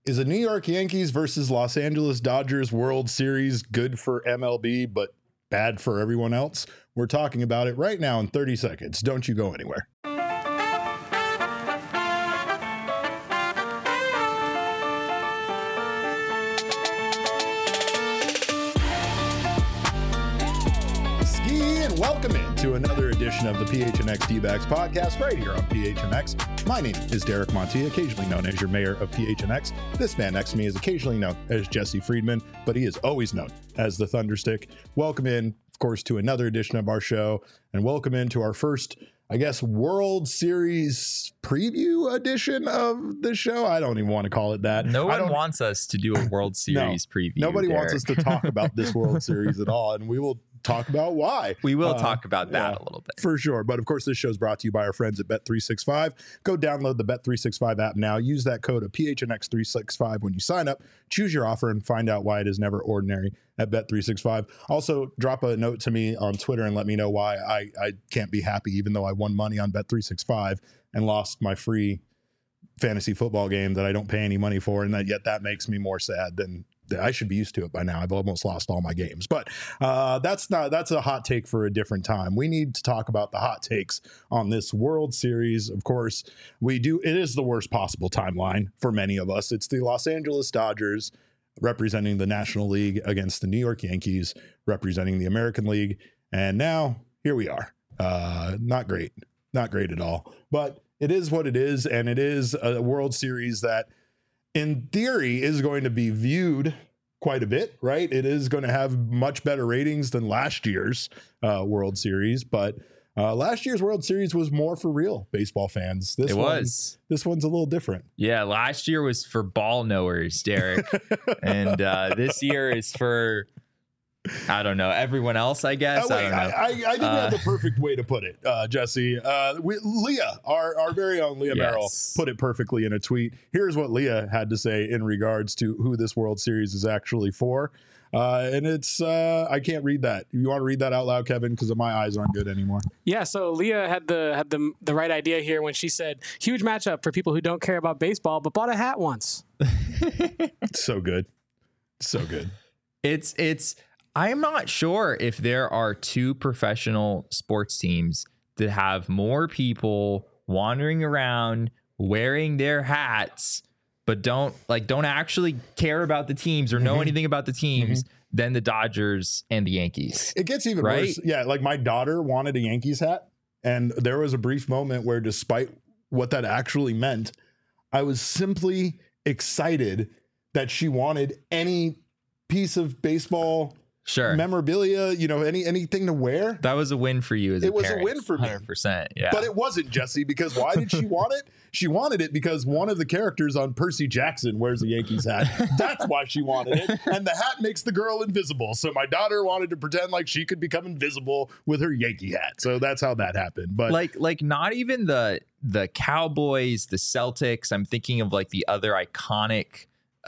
Is a New York Yankees versus Los Angeles Dodgers World Series good for MLB, but bad for everyone else? We're talking about it right now in 30 seconds. Don't you go anywhere. Welcome in to another edition of the PHNX D-Backs podcast right here on PHNX. My name is Derek Montilla, occasionally known as your mayor of PHNX. This man next to me is occasionally known as Jesse Friedman, but he is always known as the Thunderstick. Welcome in, of course, to another edition of our show, and welcome into our first, I guess, World Series preview edition of the show. I don't even want to call it that. No one wants us to do a World Series preview. Nobody Derek. wants us to talk about this World Series at all, and we will talk about why. We will talk about that a little bit. For sure. But of course, this show is brought to you by our friends at Bet365. Go download the Bet365 app now. Use that code of PHNX365 when you sign up. Choose your offer and find out why it is never ordinary at Bet365. Also, drop a note to me on Twitter and let me know why I can't be happy, even though I won money on Bet365 and lost my free fantasy football game that I don't pay any money for. And yet that makes me more sad than I should be used to it by now. I've almost lost all my games, but that's a hot take for a different time. We need to talk about the hot takes on this World Series. Of course, we do. It is the worst possible timeline for many of us. It's the Los Angeles Dodgers representing the National League against the New York Yankees representing the American League. And now here we are. Not great at all, but it is what it is. And it is a World Series that in theory is going to be viewed quite a bit, right? It is going to have much better ratings than last year's World Series, but last year's World Series was more for real baseball fans. This one's a little different. Yeah, last year was for ball knowers, Derek, and this year is for, I don't know, everyone else, I guess. I don't know. I think you have the perfect way to put it, Jesse. Leah, our very own Leah Merrill, put it perfectly in a tweet. Here's what Leah had to say in regards to who this World Series is actually for. And it's, I can't read that. You want to read that out loud, Kevin? Because my eyes aren't good anymore. Yeah, so Leah had the right idea here when she said, huge matchup for people who don't care about baseball, but bought a hat once. So good. So good. I'm not sure if there are two professional sports teams that have more people wandering around wearing their hats, but don't actually care about the teams or know anything about the teams than the Dodgers and the Yankees. It gets even worse. Yeah, like my daughter wanted a Yankees hat, and there was a brief moment where, despite what that actually meant, I was simply excited that she wanted any piece of baseball memorabilia, anything to wear. That was a win for you as a parent. It was a win for me. 100%. Yeah. But it wasn't, Jesse, because why did she want it? She wanted it because one of the characters on Percy Jackson wears a Yankees hat. That's why she wanted it. And the hat makes the girl invisible. So my daughter wanted to pretend like she could become invisible with her Yankee hat. So that's how that happened. But like not even the Cowboys, the Celtics. I'm thinking of like the other iconic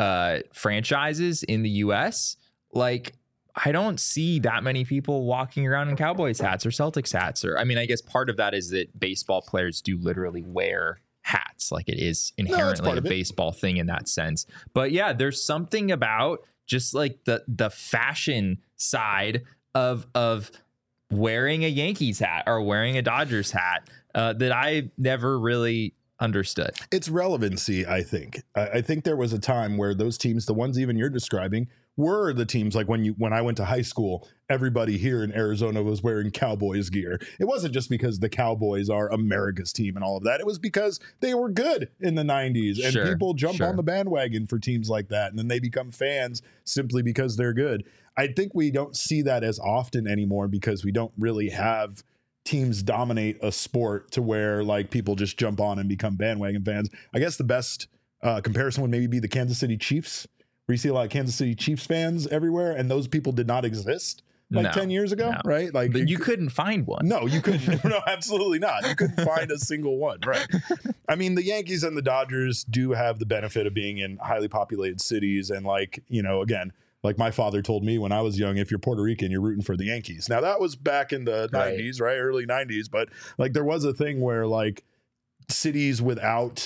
franchises in the US. Like, I don't see that many people walking around in Cowboys hats or Celtics hats. Or, I mean, I guess part of that is that baseball players do literally wear hats. Like, it is inherently a baseball thing in that sense. But yeah, there's something about just like the fashion side of wearing a Yankees hat or wearing a Dodgers hat that I never really understood. It's relevancy, I think. I think there was a time where those teams, the ones even you're describing, were the teams like when I went to high school, everybody here in Arizona was wearing Cowboys gear. It wasn't just because the Cowboys are America's team and all of that. It was because they were good in the 90s and people jump on the bandwagon for teams like that. And then they become fans simply because they're good. I think we don't see that as often anymore because we don't really have teams dominate a sport to where like people just jump on and become bandwagon fans. I guess the best comparison would maybe be the Kansas City Chiefs, where you see a lot of Kansas City Chiefs fans everywhere, and those people did not exist 10 years ago, right? Like, but you couldn't find one. No, you couldn't. No, absolutely not. You couldn't find a single one, right? I mean, the Yankees and the Dodgers do have the benefit of being in highly populated cities, and again, like my father told me when I was young, if you're Puerto Rican, you're rooting for the Yankees. Now that was back in the 90s, right? Early 90s, but like there was a thing where like cities without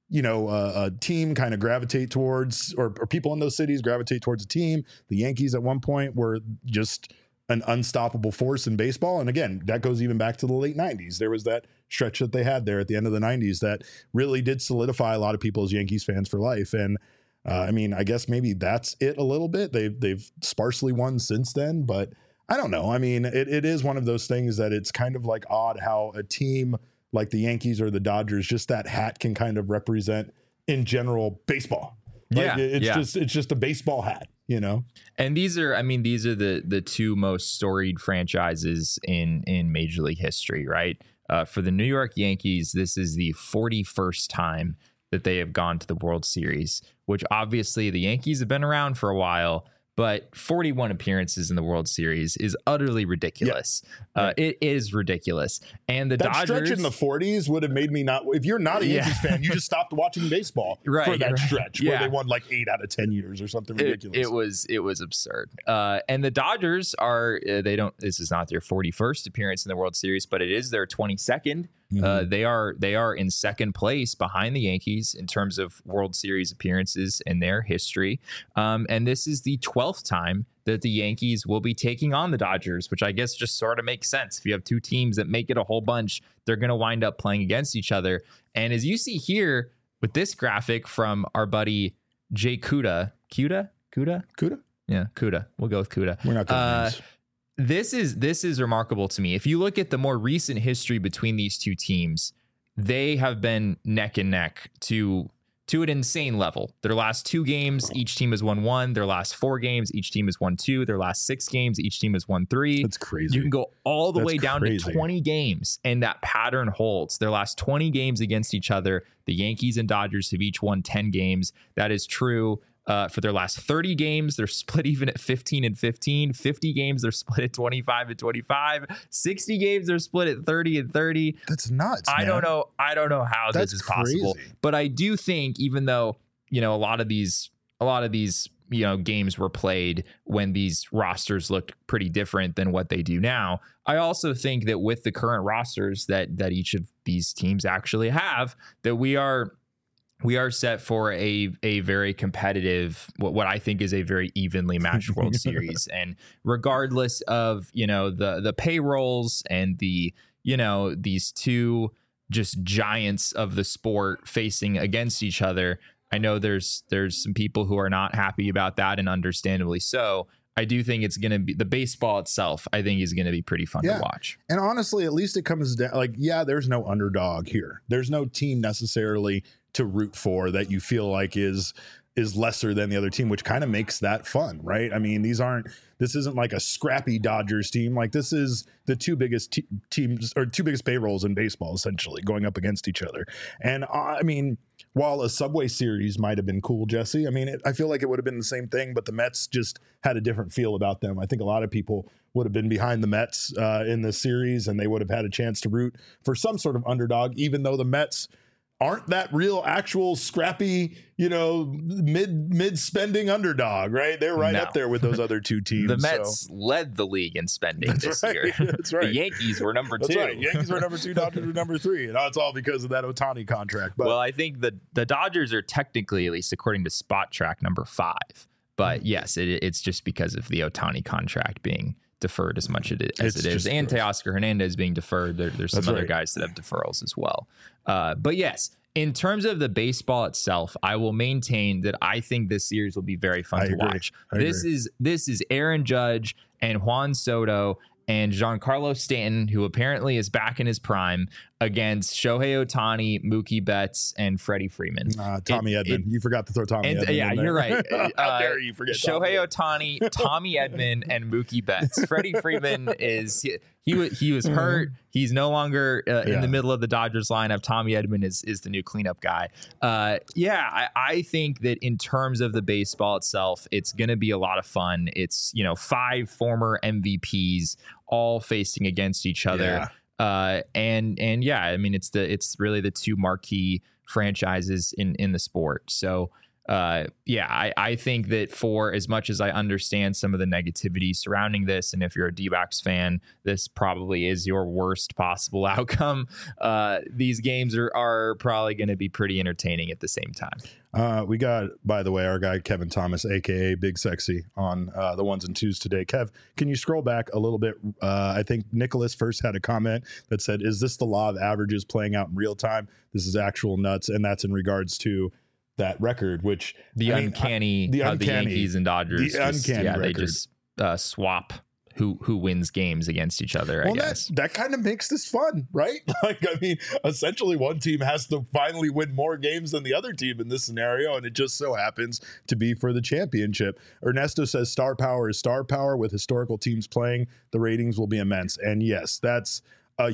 a team kind of gravitate towards, or people in those cities gravitate towards a team. The Yankees at one point were just an unstoppable force in baseball. And again, that goes even back to the late 90s. There was that stretch that they had there at the end of the 90s that really did solidify a lot of people as Yankees fans for life. And I mean, I guess maybe that's it a little bit. They've sparsely won since then, but I don't know. I mean, it is one of those things that it's kind of like odd how a team like the Yankees or the Dodgers, just that hat can kind of represent in general baseball. Like it's just a baseball hat, you know? And these are the two most storied franchises in Major League history, right? For the New York Yankees, this is the 41st time that they have gone to the World Series, which obviously the Yankees have been around for a while, but 41 appearances in the World Series is utterly ridiculous. Yeah. It is ridiculous. And that Dodgers stretch in the 40s would have made me not. If you're not a Yankees fan, you just stopped watching baseball for that stretch where they won like 8 out of 10 years or something ridiculous. It was absurd. And the Dodgers are this is not their 41st appearance in the World Series, but it is their 22nd. Mm-hmm. They are in second place behind the Yankees in terms of World Series appearances in their history. And this is the 12th time that the Yankees will be taking on the Dodgers, which I guess just sort of makes sense. If you have two teams that make it a whole bunch, they're going to wind up playing against each other. And as you see here with this graphic from our buddy Jay Kuda. Yeah, Kuda. We'll go with Kuda. We're not good names. This is remarkable to me. If you look at the more recent history between these two teams, they have been neck and neck to an insane level. Their last 2 games, each team has won 1. Their last 4 games, each team has won 2. Their last 6 games, each team has won 3. That's crazy. You can go all the way down to 20 games, and that pattern holds. Their last 20 games against each other, the Yankees and Dodgers have each won 10 games. That is true. For their last 30 games, they're split even at 15 and 15. 50 games, they're split at 25 and 25. 60 games, they're split at 30 and 30. That's nuts. I don't know how this is possible. But I do think, even though a lot of these games were played when these rosters looked pretty different than what they do now, I also think that with the current rosters that each of these teams actually have, that we are set for a very competitive, what I think is a very evenly matched World Series. And regardless of, the payrolls and these two just giants of the sport facing against each other, I know there's some people who are not happy about that, and understandably so. I do think it's going to be, the baseball itself, I think, is going to be pretty fun to watch. And honestly, at least it comes down, there's no underdog here. There's no team necessarily to root for that you feel like is lesser than the other team, which kind of makes that fun, right? I mean, this isn't like a scrappy Dodgers team. Like, this is the two biggest teams, or two biggest payrolls in baseball, essentially, going up against each other. And I mean, while a Subway Series might have been cool, Jesse, I mean, I feel like it would have been the same thing, but the Mets just had a different feel about them. I think a lot of people would have been behind the Mets in this series, and they would have had a chance to root for some sort of underdog, even though the Mets aren't that real, actual, scrappy, mid spending underdog, right? They're right up there with those other two teams. The Mets led the league in spending this year. That's right. The Yankees were number 2. That's right. Yankees were number 2, Dodgers were number 3. And it's all because of that Ohtani contract. But, well, I think the Dodgers are technically, at least according to Spot Track, number 5. But yes, it's just because of the Ohtani contract being deferred as much as it is, and Teoscar Hernandez being deferred. There's some other guys that have deferrals as well. But yes, in terms of the baseball itself, I will maintain that I think this series will be very fun to watch. This is Aaron Judge and Juan Soto and Giancarlo Stanton, who apparently is back in his prime, against Shohei Ohtani, Mookie Betts, and Freddie Freeman. Tommy Edman. You forgot to throw Tommy Edman. Yeah, you're right. How dare you forget Shohei Ohtani, Tommy Edman, and Mookie Betts. Freddie Freeman he was hurt. He's no longer in the middle of the Dodgers lineup. Tommy Edman is the new cleanup guy. I think that in terms of the baseball itself, it's going to be a lot of fun. It's 5 former MVPs all facing against each other. I mean, it's really the two marquee franchises in the sport. So I think that for as much as I understand some of the negativity surrounding this, and if you're a D-backs fan, this probably is your worst possible outcome. These games are probably going to be pretty entertaining at the same time. We got, by the way, our guy Kevin Thomas, aka Big Sexy, on the ones and twos today. Kev, can you scroll back a little bit? I think Nicholas first had a comment that said, "Is this the law of averages playing out in real time? This is actual nuts," and that's in regards to that record, which the uncanny Yankees and Dodgers, they just swap who wins games against each other. I guess that kind of makes this fun, right? Like, I mean, essentially one team has to finally win more games than the other team in this scenario, and it just so happens to be for the championship. Ernesto says star power is star power. With historical teams playing, the ratings will be immense. And yes, that's a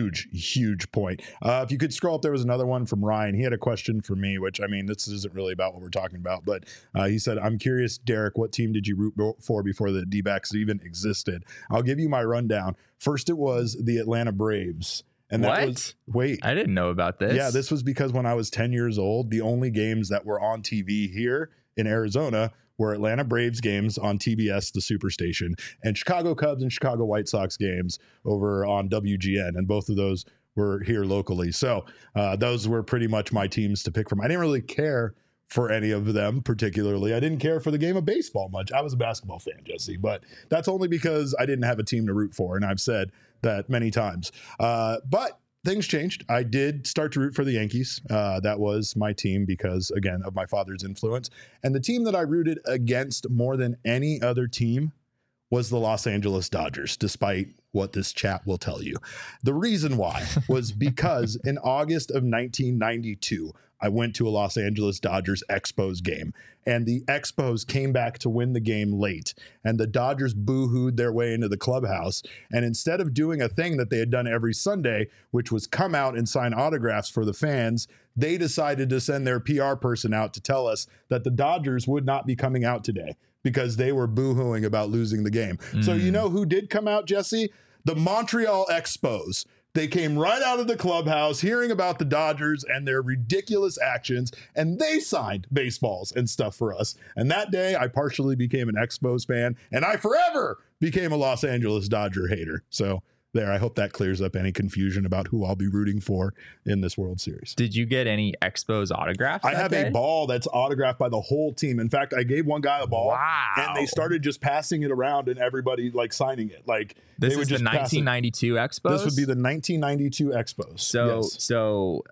huge point. If you could scroll up, there was another one from Ryan. He had a question for me, which, I mean, this isn't really about what we're talking about, but he said, "I'm curious, Derek, what team did you root for before the D-backs even existed?" I'll give you my rundown. First, it was the Atlanta Braves. And that was, wait, I didn't know about this. Yeah, this was because when I was 10 years old, the only games that were on TV here in Arizona were Atlanta Braves games on TBS, the Superstation, and Chicago Cubs and Chicago White Sox games over on WGN. And both of those were here locally. So those were pretty much my teams to pick from. I didn't really care for any of them particularly. I didn't care for the game of baseball much. I was a basketball fan, Jesse, but that's only because I didn't have a team to root for. And I've said that many times. But things changed. I did start to root for the Yankees. That was my team because, again, of my father's influence. And the team that I rooted against more than any other team was the Los Angeles Dodgers, despite what this chat will tell you. The reason why was because in August of 1992, I went to a Los Angeles Dodgers Expos game, and the Expos came back to win the game late, and the Dodgers boo-hooed their way into the clubhouse. And instead of doing a thing that they had done every Sunday, which was come out and sign autographs for the fans, they decided to send their PR person out to tell us that the Dodgers would not be coming out today because they were boo-hooing about losing the game. So you know who did come out, Jesse? The Montreal Expos. They came right out of the clubhouse hearing about the Dodgers and their ridiculous actions, and they signed baseballs and stuff for us. And that day, I partially became an Expos fan, and I forever became a Los Angeles Dodger hater. So there, I hope that clears up any confusion about who I'll be rooting for in this World Series. Did you get any Expos autographs? I have a ball that's autographed by the whole team. In fact, I gave one guy a ball, and they started just passing it around, and everybody like signing it. Like this they would is just the 1992 Expos. This would be the 1992 Expos. So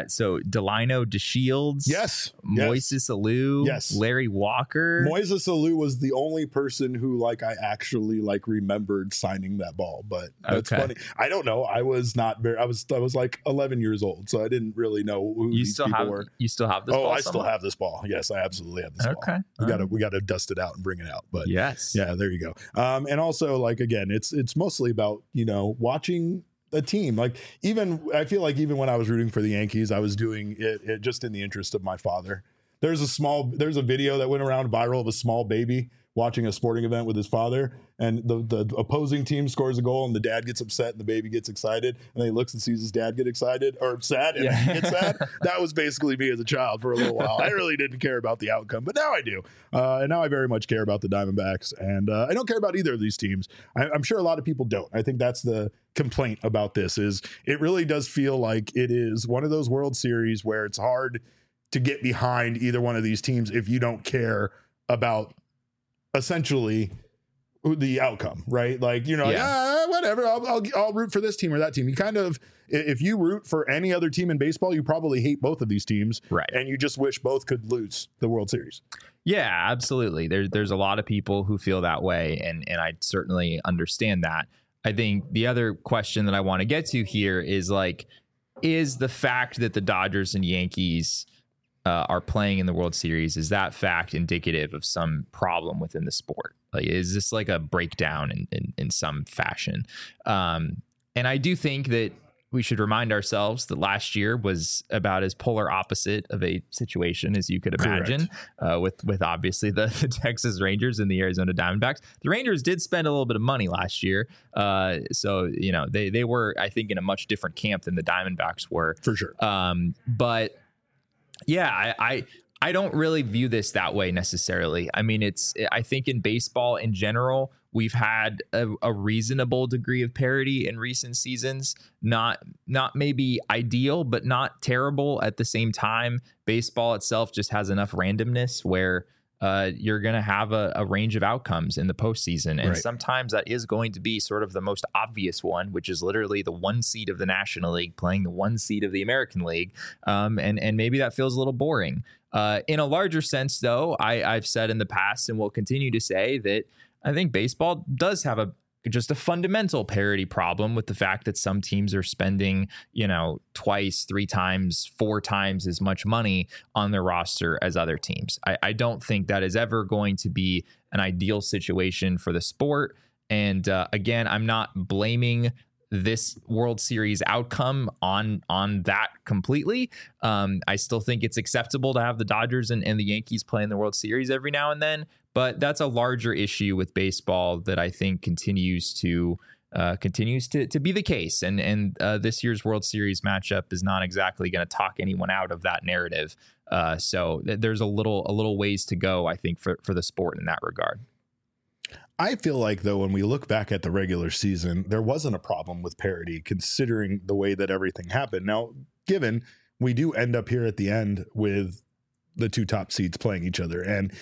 Delino DeShields, yes, Moises Alou, yes, Larry Walker. Moises Alou was the only person who like I actually like remembered signing that ball, but that's funny. I don't know. I was not very. I was like 11 years old, so I didn't really know who these people were. You still have this ball? I still have this ball. Yes, I absolutely have this ball. We got to dust it out and bring it out. But yes, yeah, there you go. And also, like again, it's mostly about watching a team. Like I feel like even when I was rooting for the Yankees, I was doing it just in the interest of my father. There's a video that went around viral of a small baby watching a sporting event with his father, and the opposing team scores a goal and the dad gets upset and the baby gets excited, and then he looks and sees his dad get excited or sad and he gets sad. That was basically me as a child for a little while. I really didn't care about the outcome, but now I do. And now I very much care about the Diamondbacks, and I don't care about either of these teams. I'm sure a lot of people don't. I think that's the complaint about this, is it really does feel like it is one of those World Series where it's hard to get behind either one of these teams if you don't care about essentially the outcome, right? Like, whatever, I'll root for this team or that team. You kind of, if you root for any other team in baseball, you probably hate both of these teams, right? And you just wish both could lose the World Series. Yeah, absolutely. There's a lot of people who feel that way, and I certainly understand that. I think the other question that I want to get to here is is the fact that the Dodgers and Yankees are playing in the World Series, is that fact indicative of some problem within the sport? Like, is this like a breakdown in some fashion? And I do think that we should remind ourselves that last year was about as polar opposite of a situation as you could imagine, with obviously the Texas Rangers and the Arizona Diamondbacks. The Rangers did spend a little bit of money last year. So, they were, I think, in a much different camp than the Diamondbacks were. For sure. But yeah, I don't really view this that way necessarily. I mean, I think in baseball in general, we've had a reasonable degree of parity in recent seasons. Not maybe ideal, but not terrible at the same time. Baseball itself just has enough randomness where you're going to have a range of outcomes in the postseason. And sometimes that is going to be sort of the most obvious one, which is literally the 1 seed of the National League playing the 1 seed of the American League. And maybe that feels a little boring. In a larger sense, though, I've said in the past and will continue to say that I think baseball does have just a fundamental parity problem with the fact that some teams are spending, twice, 3 times, 4 times as much money on their roster as other teams. I don't think that is ever going to be an ideal situation for the sport. And again, I'm not blaming this World Series outcome on that completely. I still think it's acceptable to have the Dodgers and the Yankees play in the World Series every now and then, but that's a larger issue with baseball that I think continues to be the case. And this year's World Series matchup is not exactly going to talk anyone out of that narrative. So there's a little ways to go, I think, for the sport in that regard. I feel like, though, when we look back at the regular season, there wasn't a problem with parity considering the way that everything happened. Now, given we do end up here at the end with the 2 top seeds playing each other, and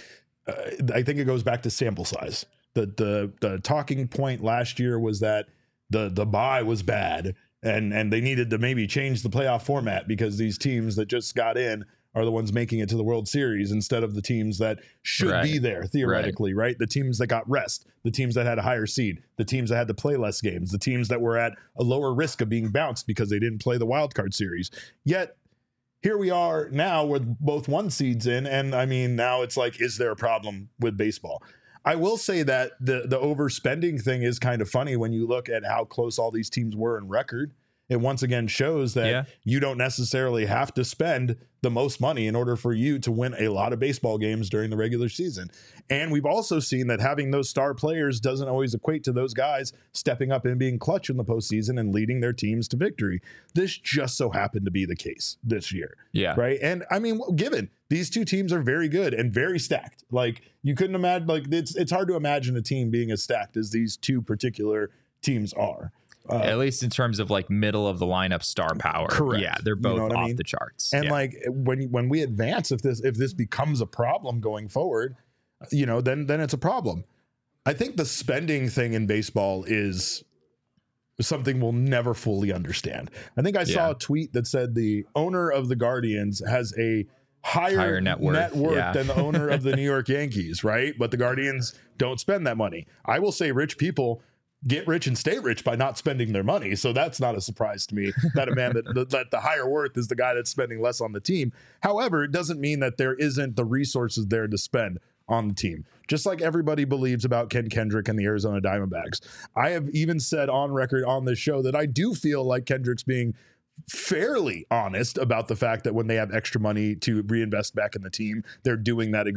I think it goes back to sample size. The talking point last year was that the bye was bad and they needed to maybe change the playoff format because these teams that just got in are the ones making it to the World Series instead of the teams that should be there theoretically, right? The teams that got rest, the teams that had a higher seed, the teams that had to play less games, the teams that were at a lower risk of being bounced because they didn't play the wild card series. Yet here we are now with both 1 seeds in. And I mean, now it's like, is there a problem with baseball? I will say that the overspending thing is kind of funny when you look at how close all these teams were in record. It once again shows that you don't necessarily have to spend the most money in order for you to win a lot of baseball games during the regular season. And we've also seen that having those star players doesn't always equate to those guys stepping up and being clutch in the postseason and leading their teams to victory. This just so happened to be the case this year. Yeah. Right. And I mean, given these 2 teams are very good and very stacked, like you couldn't imagine, like it's hard to imagine a team being as stacked as these 2 particular teams are. At least in terms of like middle of the lineup star power. Correct. Yeah, they're both off the charts. And like when we advance, if this becomes a problem going forward, then it's a problem. I think the spending thing in baseball is something we'll never fully understand. I think I saw a tweet that said the owner of the Guardians has a higher net worth than the owner of the New York Yankees, right? But the Guardians don't spend that money. I will say rich people get rich and stay rich by not spending their money. So that's not a surprise to me that a man that the higher worth is the guy that's spending less on the team. However, it doesn't mean that there isn't the resources there to spend on the team. Just like everybody believes about Ken Kendrick and the Arizona Diamondbacks. I have even said on record on this show that I do feel like Kendrick's being fairly honest about the fact that when they have extra money to reinvest back in the team, they're doing that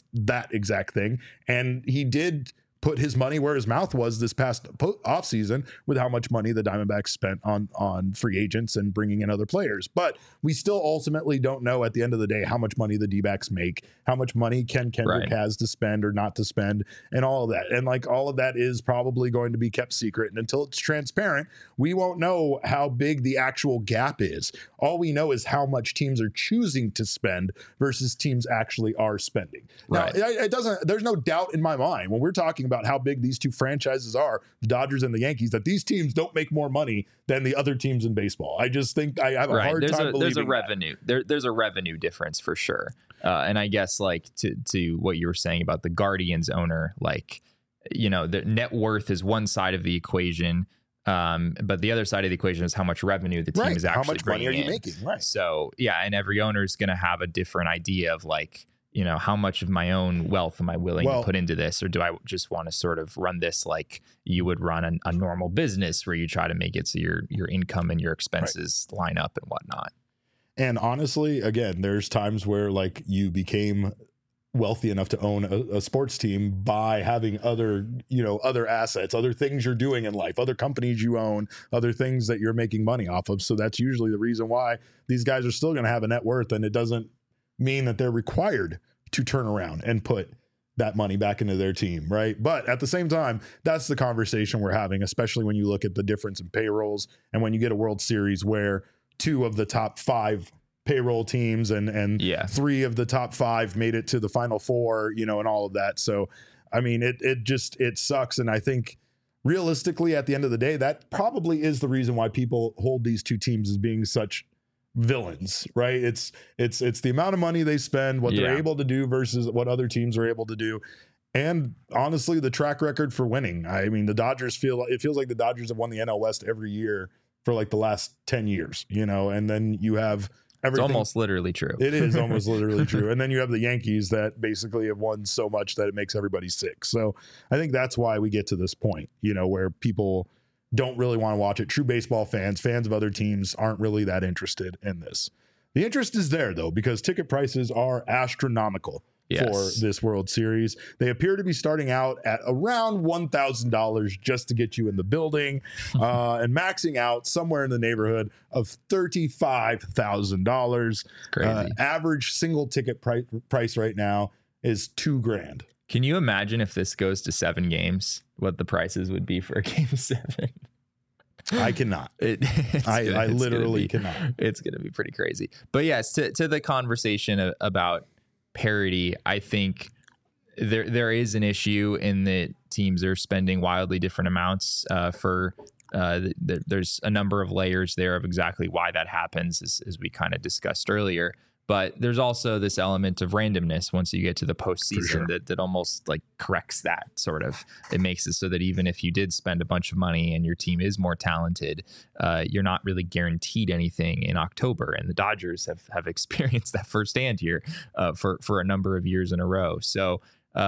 exact thing. And he did put his money where his mouth was this past offseason with how much money the Diamondbacks spent on free agents and bringing in other players. But we still ultimately don't know at the end of the day how much money the D-backs make, how much money Ken Kendrick has to spend or not to spend, and all of that. And like all of that is probably going to be kept secret. And until it's transparent, we won't know how big the actual gap is. All we know is how much teams are choosing to spend versus teams actually are spending. Now, there's no doubt in my mind when we're talking about how big these 2 franchises are, the Dodgers and the Yankees, that these teams don't make more money than the other teams in baseball. I just think I have a hard time believing there's a revenue. There's a revenue difference for sure. And I guess like to what you were saying about the Guardians owner, like, the net worth is one side of the equation. But the other side of the equation is how much revenue the team is actually how much bringing money are you in. making? Right. So and every owner is going to have a different idea of like, how much of my own wealth am I willing to put into this? Or do I just want to sort of run this like you would run a normal business where you try to make it so your income and your expenses line up and whatnot? And honestly, again, there's times where like you became wealthy enough to own a sports team by having other assets, other things you're doing in life, other companies you own, other things that you're making money off of. So that's usually the reason why these guys are still going to have a net worth, and it doesn't mean that they're required to turn around and put that money back into their team, right? But at the same time, that's the conversation we're having, especially when you look at the difference in payrolls and when you get a World Series where 2 of the top 5 payroll teams and 3 of the top 5 made it to the Final Four, and all of that. So, I mean, it sucks. And I think realistically, at the end of the day, that probably is the reason why people hold these 2 teams as being such villains, right? It's the amount of money they spend, what they're able to do versus what other teams are able to do. And honestly, the track record for winning. I mean, the Dodgers feels like the Dodgers have won the NL West every year for like the last 10 years, and then you have everything. It's almost literally true. It is almost literally true. And then you have the Yankees that basically have won so much that it makes everybody sick. So I think that's why we get to this point, where people don't really want to watch it. True baseball fans of other teams aren't really that interested in this. The interest is there, though, because ticket prices are astronomical for this World Series. They appear to be starting out at around $1,000 just to get you in the building and maxing out somewhere in the neighborhood of $35,000. Crazy. Average single ticket price right now is $2,000. Can you imagine if this goes to 7 games, what the prices would be for a game 7? I cannot. I literally cannot. It's going to be pretty crazy. But yes, to the conversation about parity, I think there is an issue in that teams are spending wildly different amounts there's a number of layers there of exactly why that happens, as we kind of discussed earlier. But there's also this element of randomness once you get to the postseason that almost like corrects that sort of. It makes it so that even if you did spend a bunch of money and your team is more talented, you're not really guaranteed anything in October. And the Dodgers have experienced that firsthand here for a number of years in a row. So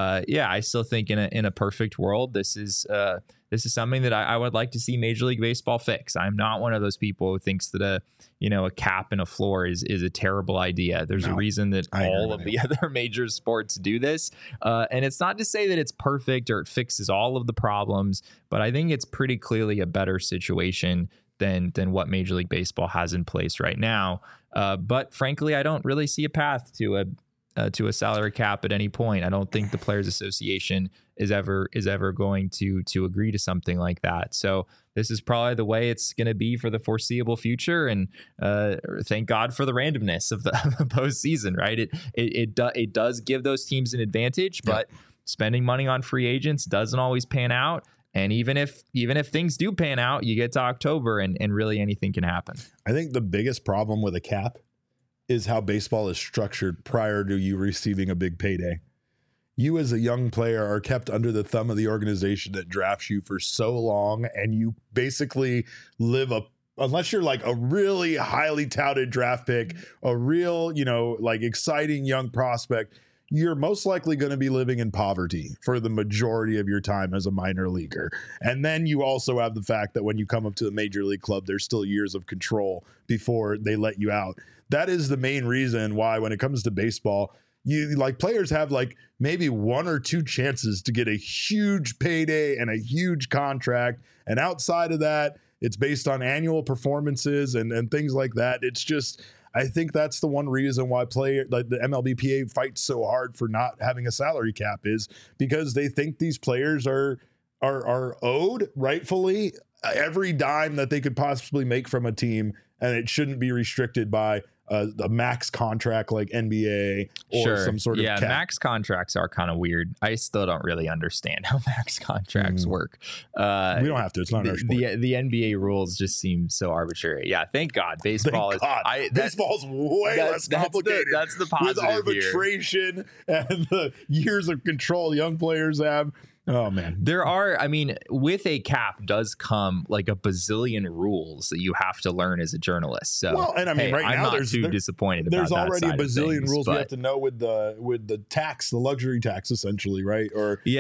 I still think in a perfect world, this is something that I would like to see Major League Baseball fix. I'm not one of those people who thinks that a cap and a floor is a terrible idea. There's a reason that all of the other major sports do this. And it's not to say that it's perfect or it fixes all of the problems, but I think it's pretty clearly a better situation than what Major League Baseball has in place right now. But frankly, I don't really see a path to a salary cap at any point. I don't think the Players Association is ever going to agree to something like that. So this is probably the way it's going to be for the foreseeable future. And thank God for the randomness of the postseason, right? It does give those teams an advantage, but spending money on free agents doesn't always pan out. And even if things do pan out, you get to October and really anything can happen. I think the biggest problem with a cap is how baseball is structured prior to you receiving a big payday. You as a young player are kept under the thumb of the organization that drafts you for so long, and you basically live unless you're like a really highly touted draft pick, a real, like exciting young prospect, you're most likely going to be living in poverty for the majority of your time as a minor leaguer. And then you also have the fact that when you come up to the major league club, there's still years of control before they let you out. That is the main reason why when it comes to baseball, players have like maybe 1 or 2 chances to get a huge payday and a huge contract. And outside of that, it's based on annual performances and things like that. It's just, I think that's the one reason why the MLBPA fights so hard for not having a salary cap, is because they think these players are owed rightfully every dime that they could possibly make from a team, and it shouldn't be restricted by a max contract like NBA or some sort of cap. Max contracts are kind of weird. I still don't really understand how max contracts work. We don't have to. It's not our sport. The NBA rules just seem so arbitrary. Yeah, thank God. Baseball baseball's way less complicated. That's the positive with arbitration here. And the years of control young players have. Oh man, with a cap does come like a bazillion rules that you have to learn as a journalist. So, right now I'm not too disappointed about that. There's already a bazillion rules but we have to know with the tax, the luxury tax, essentially, right?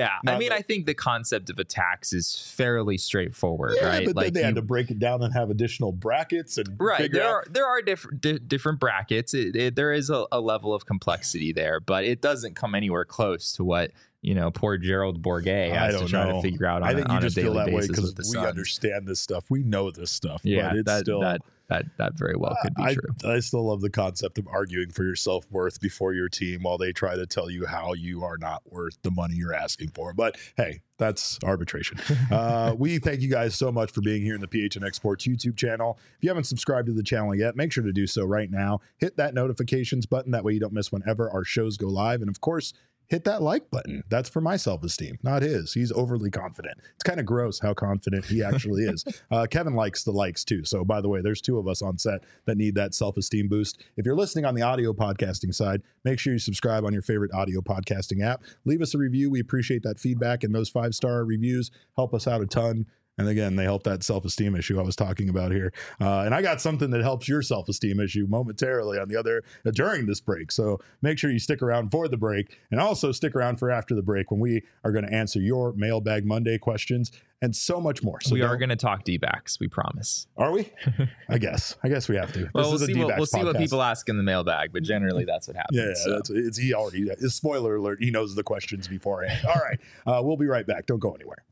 I think the concept of a tax is fairly straightforward, right? But then they had to break it down and have additional brackets and there are different brackets. There is a level of complexity there, but it doesn't come anywhere close to what poor Gerald Bourguet has to try to figure out on, I think you just feel that way because we Suns. Understand this stuff. We know this stuff. Yeah, but it's still that very well could be true. I still love the concept of arguing for your self-worth before your team while they try to tell you how you are not worth the money you're asking for. But hey, that's arbitration. We thank you guys so much for being here in the PHNX Sports YouTube channel. If you haven't subscribed to the channel yet, make sure to do so right now. Hit that notifications button. That way you don't miss whenever our shows go live. And of course, hit that like button. That's for my self-esteem, not his. He's overly confident. It's kind of gross how confident he actually is. Kevin likes the likes too. So by the way, there's 2 of us on set that need that self-esteem boost. If you're listening on the audio podcasting side, make sure you subscribe on your favorite audio podcasting app. Leave us a review. We appreciate that feedback, and those 5-star reviews help us out a ton. And again, they help that self-esteem issue I was talking about here. And I got something that helps your self-esteem issue momentarily during this break. So make sure you stick around for the break, and also stick around for after the break when we are going to answer your Mailbag Monday questions and so much more. So we are going to talk D-backs, we promise. Are we? I guess we have to. Well, we'll see what people ask in the mailbag, but generally that's what happens. Yeah, so. Spoiler alert, he knows the questions beforehand. All right, we'll be right back. Don't go anywhere.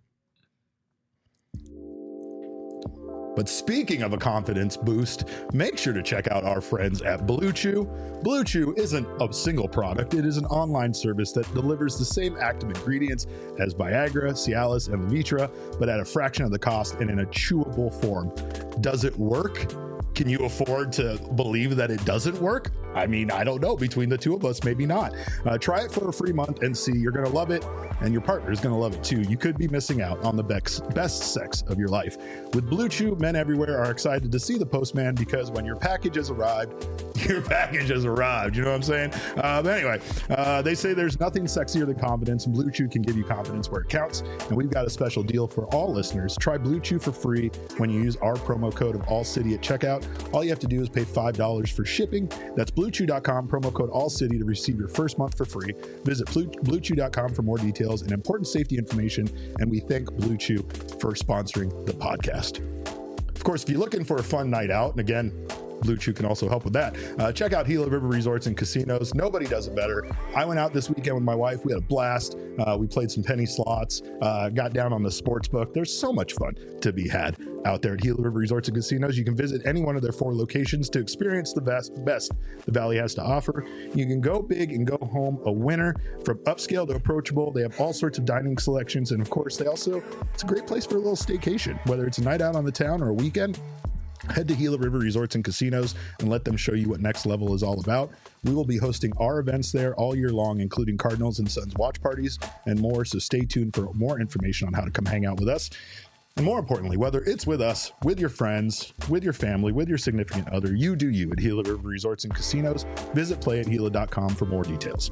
But speaking of a confidence boost, make sure to check out our friends at Blue Chew. Blue Chew isn't a single product. It is an online service that delivers the same active ingredients as Viagra, Cialis, and Levitra, but at a fraction of the cost and in a chewable form. Does it work? Can you afford to believe that it doesn't work? I mean, I don't know. Between the 2 of us, maybe not. Try it for a free month and see. You're going to love it, and your partner is going to love it too. You could be missing out on the best sex of your life. With Blue Chew, men everywhere are excited to see the postman, because when your package has arrived, your package has arrived. You know what I'm saying? But anyway, they say there's nothing sexier than confidence, and Blue Chew can give you confidence where it counts. And we've got a special deal for all listeners. Try Blue Chew for free when you use our promo code of ALLCITY at checkout. All you have to do is pay $5 for shipping. That's BlueChew.com, promo code ALLCITY to receive your first month for free. Visit BlueChew.com for more details and important safety information. And we thank Blue Chew for sponsoring the podcast. Of course, if you're looking for a fun night out, and again, Blue Chew can also help with that. Check out Gila River Resorts and Casinos. Nobody does it better. I went out this weekend with my wife. We had a blast. We played some penny slots, got down on the sports book. There's so much fun to be had out there at Gila River Resorts and Casinos. You can visit any one of their 4 locations to experience the best the Valley has to offer. You can go big and go home a winner. From upscale to approachable, they have all sorts of dining selections. And of course, it's a great place for a little staycation, whether it's a night out on the town or a weekend. Head to Gila River Resorts and Casinos and let them show you what Next Level is all about. We will be hosting our events there all year long, including Cardinals and Suns watch parties and more. So stay tuned for more information on how to come hang out with us. And more importantly, whether it's with us, with your friends, with your family, with your significant other, you do you at Gila River Resorts and Casinos. Visit playathila.com for more details.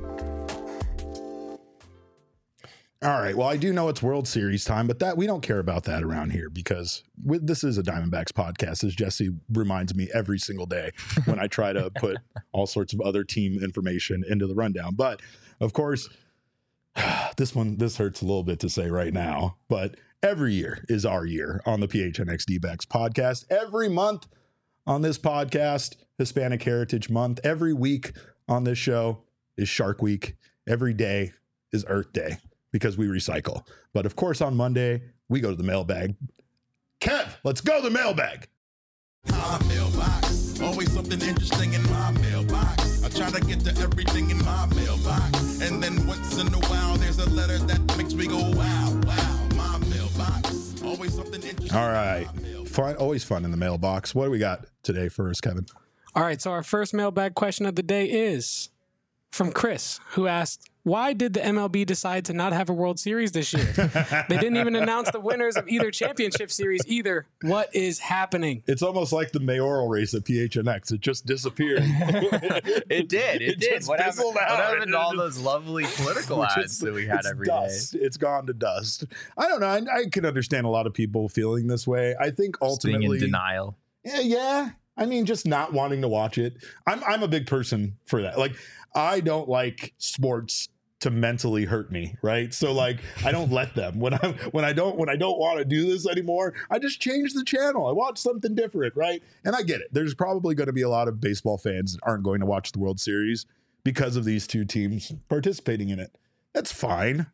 All right. Well, I do know it's World Series time, but we don't care about that around here, because this is a Diamondbacks podcast, as Jesse reminds me every single day when I try to put all sorts of other team information into the rundown. But of course, this hurts a little bit to say right now, but every year is our year on the PHNX D-backs podcast. Every month on this podcast, Hispanic Heritage Month. Every week on this show is Shark Week. Every day is Earth Day, because we recycle. But of course, on Monday, we go to the mailbag. Kev, let's go to the mailbag. My mailbox, always something interesting in my mailbox. I try to get to everything in my mailbox, and then once in a while, there's a letter that makes me go, wow, wow. My mailbox, always something interesting. All right. Fun, always fun in the mailbox. What do we got today for us, Kevin? All right, so our first mailbag question of the day is from Chris, who asked, why did the MLB decide to not have a World Series this year? They didn't even announce the winners of either championship series either. What is happening? It's almost like the mayoral race at PHNX. It just disappeared. It did. What happened to all those lovely political ads that we had every dust. day? It's gone to dust. I don't know. I can understand a lot of people feeling this way. I think ultimately, being in denial. Yeah. I mean, just not wanting to watch it. I'm a big person for that. Like, I don't like sports to mentally hurt me, right? So like, I don't let them. When I don't want to do this anymore, I just change the channel. I watch something different, right? And I get it. There's probably going to be a lot of baseball fans that aren't going to watch the World Series because of these 2 teams participating in it. That's fine.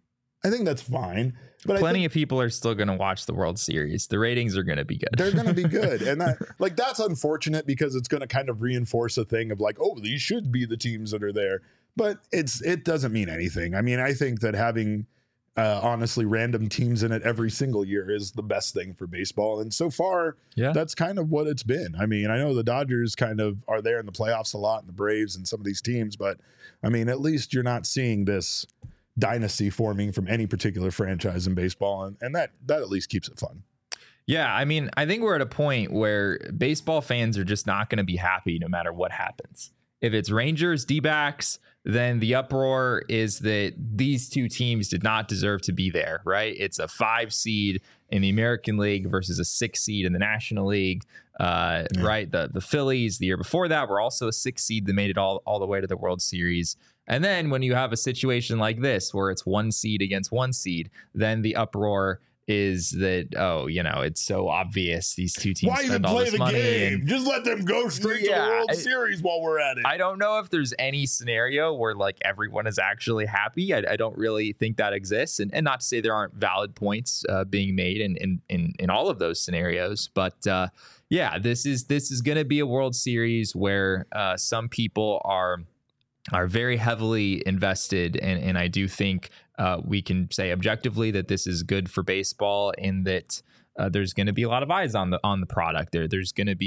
I think that's fine. But Plenty of people are still going to watch the World Series. The ratings are going to be good. They're going to be good. And that's unfortunate because it's going to kind of reinforce a thing of like, oh, these should be the teams that are there. But it doesn't mean anything. I mean, I think that having honestly random teams in it every single year is the best thing for baseball. And so far, that's kind of what it's been. I mean, I know the Dodgers kind of are there in the playoffs a lot and the Braves and some of these teams, but I mean, at least you're not seeing this dynasty forming from any particular franchise in baseball. And that at least keeps it fun. Yeah, I mean, I think we're at a point where baseball fans are just not going to be happy no matter what happens. If it's Rangers, D-backs, then the uproar is that these two teams did not deserve to be there, right? It's a 5 seed in the American League versus a 6 seed in the National League, right? The Phillies, the year before that, were also a 6 seed that made it all the way to the World Series. And then when you have a situation like this, where it's 1 seed against 1 seed, then the uproar is that, oh, you know, it's so obvious these two teams spend all this money. Game? Just let them go straight to the World Series while we're at it. I don't know if there's any scenario where like everyone is actually happy. I don't really think that exists. And not to say there aren't valid points being made in all of those scenarios. But this is going to be a World Series where some people are very heavily invested. And I do think we can say objectively that this is good for baseball in that there's going to be a lot of eyes on the product. There's going to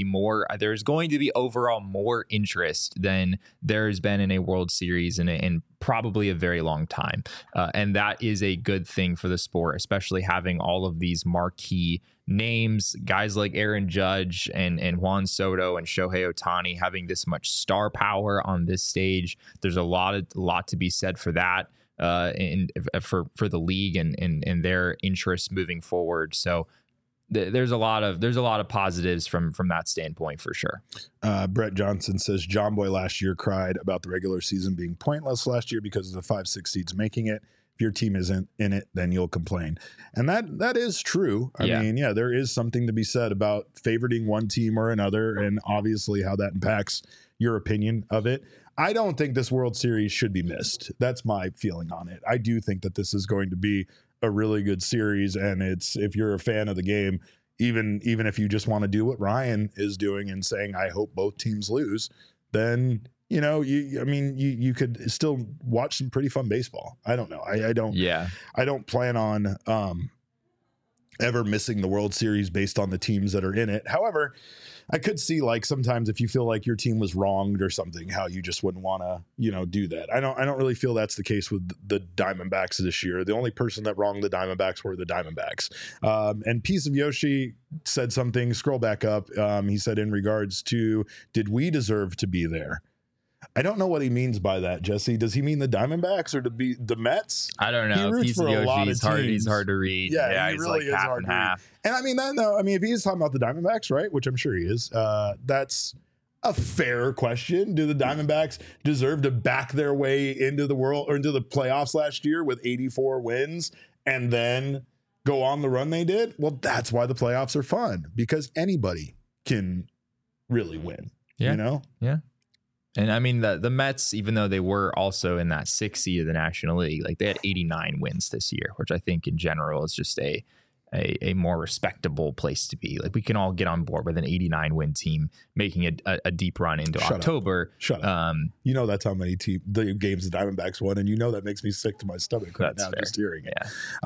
be overall more interest than there's been in a World Series in probably a very long time. And that is a good thing for the sport, especially having all of these marquee names, guys like Aaron Judge and Juan Soto and Shohei Ohtani having this much star power on this stage. There's a lot to be said for that, and for the league and their interests moving forward. So there's a lot of positives from that standpoint for sure. Brett Johnson says John Boy last year cried about the regular season being pointless last year because of the 5-6 seeds making it. If your team isn't in it, then you'll complain. And that is true. I mean, there is something to be said about favoriting one team or another, and obviously how that impacts your opinion of it. I don't think this World Series should be missed. That's my feeling on it. I do think that this is going to be a really good series, and if you're a fan of the game, even if you just want to do what Ryan is doing and saying, I hope both teams lose, then you could still watch some pretty fun baseball. I don't know. I don't plan on ever missing the World Series based on the teams that are in it. However, I could see like sometimes if you feel like your team was wronged or something, how you just wouldn't want to, do that. I don't really feel that's the case with the Diamondbacks this year. The only person that wronged the Diamondbacks were the Diamondbacks. And Piece of Yoshi said something, scroll back up. He said in regards to, did we deserve to be there? I don't know what he means by that, Jesse. Does he mean the Diamondbacks or the Mets? I don't know. He roots Piece for of a lot of Yoshi's hard. He's hard to read. Yeah, he he's really like is half hard and to read. half. And I mean, if he is talking about the Diamondbacks, right, which I'm sure he is, that's a fair question. Do the Diamondbacks deserve to back their way into the world or into the playoffs last year with 84 wins and then go on the run they did? Well, that's why the playoffs are fun, because anybody can really win. Yeah. Yeah. And I mean, the Mets, even though they were also in that 6th seed of the National League, like they had 89 wins this year, which I think in general is just a more respectable place to be. Like we can all get on board with an 89 win team making a deep run into October. Shut up. That's how many the games the Diamondbacks won, and that makes me sick to my stomach right now just hearing it.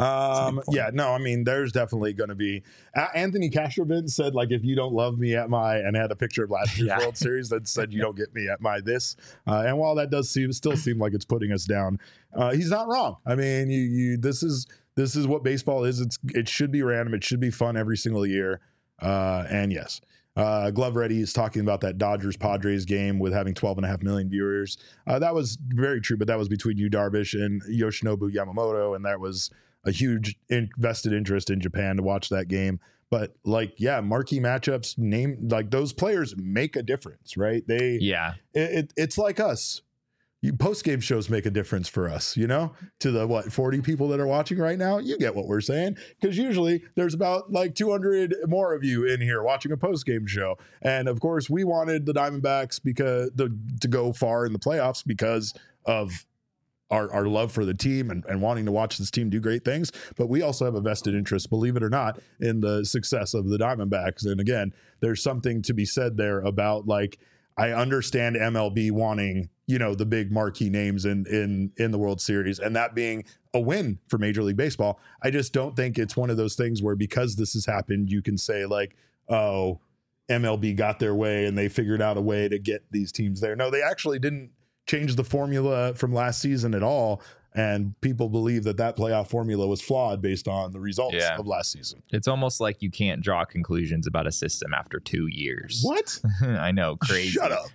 I mean, there's definitely going to be. Anthony Castrovin said, like, if you don't love me at my, and had a picture of last year's World Series that said you don't get me at my this. And while that does still seem like it's putting us down, he's not wrong. I mean, this is what baseball is. It should be random. It should be fun every single year. And yes, Glove Ready is talking about that Dodgers-Padres game with having 12.5 million viewers. That was very true, but that was between Yu Darvish and Yoshinobu Yamamoto, and that was a huge invested interest in Japan to watch that game. But marquee matchups, like those players make a difference, right? It's like us. Post-game shows make a difference for us, to the 40 people that are watching right now. You get what we're saying, because usually there's about 200 more of you in here watching a post-game show. And of course we wanted the Diamondbacks to go far in the playoffs because of our love for the team and wanting to watch this team do great things, but we also have a vested interest, believe it or not, in the success of the Diamondbacks. And again, there's something to be said there about, like, I understand MLB wanting, the big marquee names in the World Series, and that being a win for Major League Baseball. I just don't think it's one of those things where, because this has happened, you can say, like, oh, MLB got their way and they figured out a way to get these teams there. No, they actually didn't change the formula from last season at all. And people believe that playoff formula was flawed based on the results of last season. It's almost like you can't draw conclusions about a system after 2 years. What? I know. Crazy. Shut up.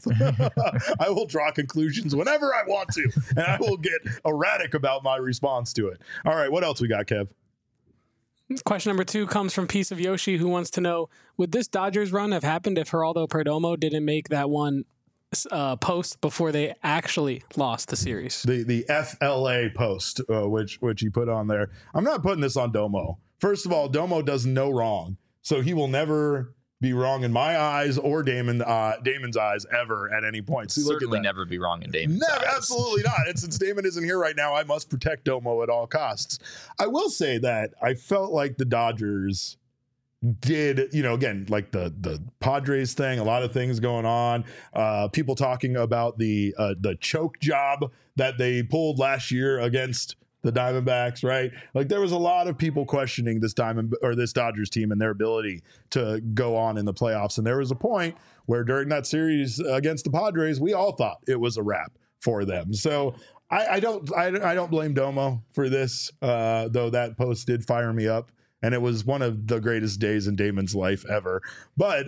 I will draw conclusions whenever I want to, and I will get erratic about my response to it. All right. What else we got, Kev? Question number 2 comes from Piece of Yoshi, who wants to know, would this Dodgers run have happened if Geraldo Perdomo didn't make that one post before they actually lost the series? The FLA post, which he put on there. I'm not putting this on Domo. First of all, Domo does no wrong, so he will never be wrong in my eyes or Damon's eyes ever at any point. See, certainly never be wrong in Damon's eyes. Absolutely not. And since Damon isn't here right now, I must protect Domo at all costs. I will say that I felt like the Dodgers did, again, like the Padres thing, a lot of things going on, people talking about the choke job that they pulled last year against the Diamondbacks, right? Like, there was a lot of people questioning this Dodgers team and their ability to go on in the playoffs. And there was a point where during that series against the Padres, we all thought it was a wrap for them. So I don't blame Domo for this, though that post did fire me up. And it was one of the greatest days in Damon's life ever. But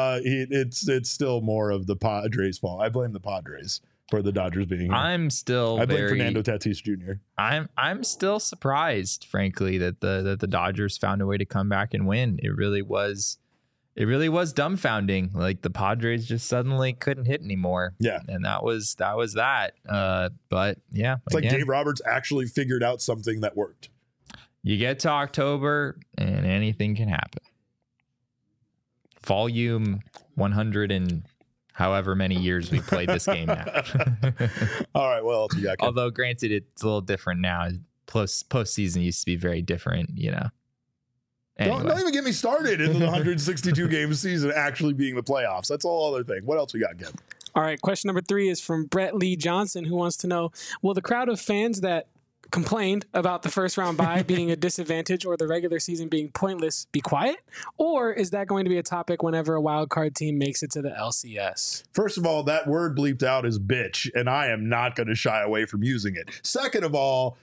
it's still more of the Padres' fault. I blame the Padres for the Dodgers being here. I blame Fernando Tatis Jr. I'm still surprised, frankly, that the Dodgers found a way to come back and win. It really was dumbfounding. Like, the Padres just suddenly couldn't hit anymore. Yeah. And that was that. But yeah. It's like Dave Roberts actually figured out something that worked. You get to October and anything can happen. Volume 100 and however many years we played this game now. All right, what else you got? Although, granted, it's a little different now. Postseason used to be very different, Anyway. Don't even get me started in the 162 game season actually being the playoffs. That's a whole other thing. What else we got, Kev? All right, question number 3 is from Brett Lee Johnson, who wants to know, will the crowd of fans that complained about the first round bye being a disadvantage or the regular season being pointless be quiet? Or is that going to be a topic whenever a wild card team makes it to the LCS? First of all, that word bleeped out is bitch, and I am not going to shy away from using it. Second of all,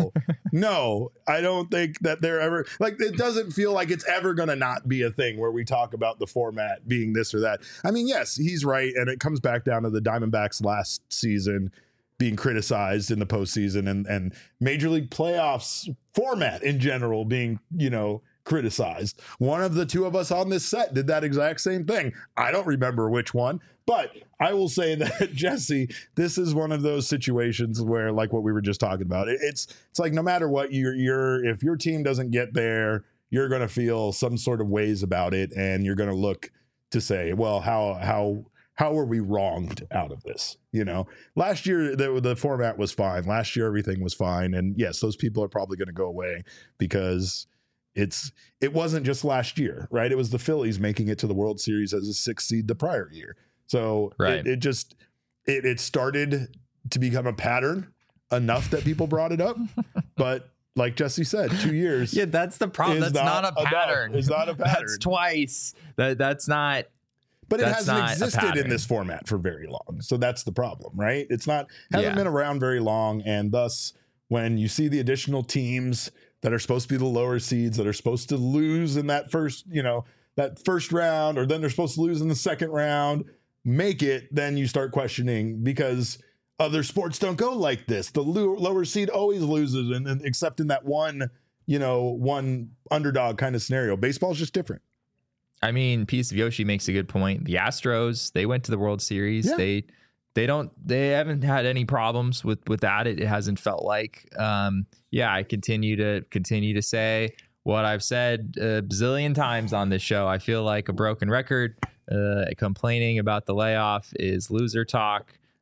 no, I don't think that they're ever, like, it doesn't feel like it's ever going to not be a thing where we talk about the format being this or that. I mean, yes, he's right. And it comes back down to the Diamondbacks last season being criticized in the postseason and Major League playoffs format in general being, criticized. One of the two of us on this set did that exact same thing. I don't remember which one, but I will say that, Jesse, this is one of those situations where, like what we were just talking about, it's like, no matter what, if your team doesn't get there, you're going to feel some sort of ways about it. And you're going to look to say, well, how were we wronged out of this? Last year, the format was fine. Last year, everything was fine. And yes, those people are probably going to go away because it wasn't just last year, right? It was the Phillies making it to the World Series as a 6th seed the prior year. So right. it started to become a pattern enough that people brought it up. But like Jesse said, 2 years. Yeah, that's the problem. That's not a pattern. It's not a pattern. That's twice. That's not. But it hasn't existed in this format for very long. So that's the problem, right? Hasn't been around very long. And thus, when you see the additional teams that are supposed to be the lower seeds that are supposed to lose in that first round, or then they're supposed to lose in the second round, make it, then you start questioning, because other sports don't go like this. The lower seed always loses, and except in that one underdog kind of scenario. Baseball's just different. I mean, Piece of Yoshi makes a good point. The Astros, they went to the World Series. Yeah. They haven't had any problems with that. It hasn't felt like. I continue to say what I've said a bazillion times on this show. I feel like a broken record. Complaining about the layoff is loser talk.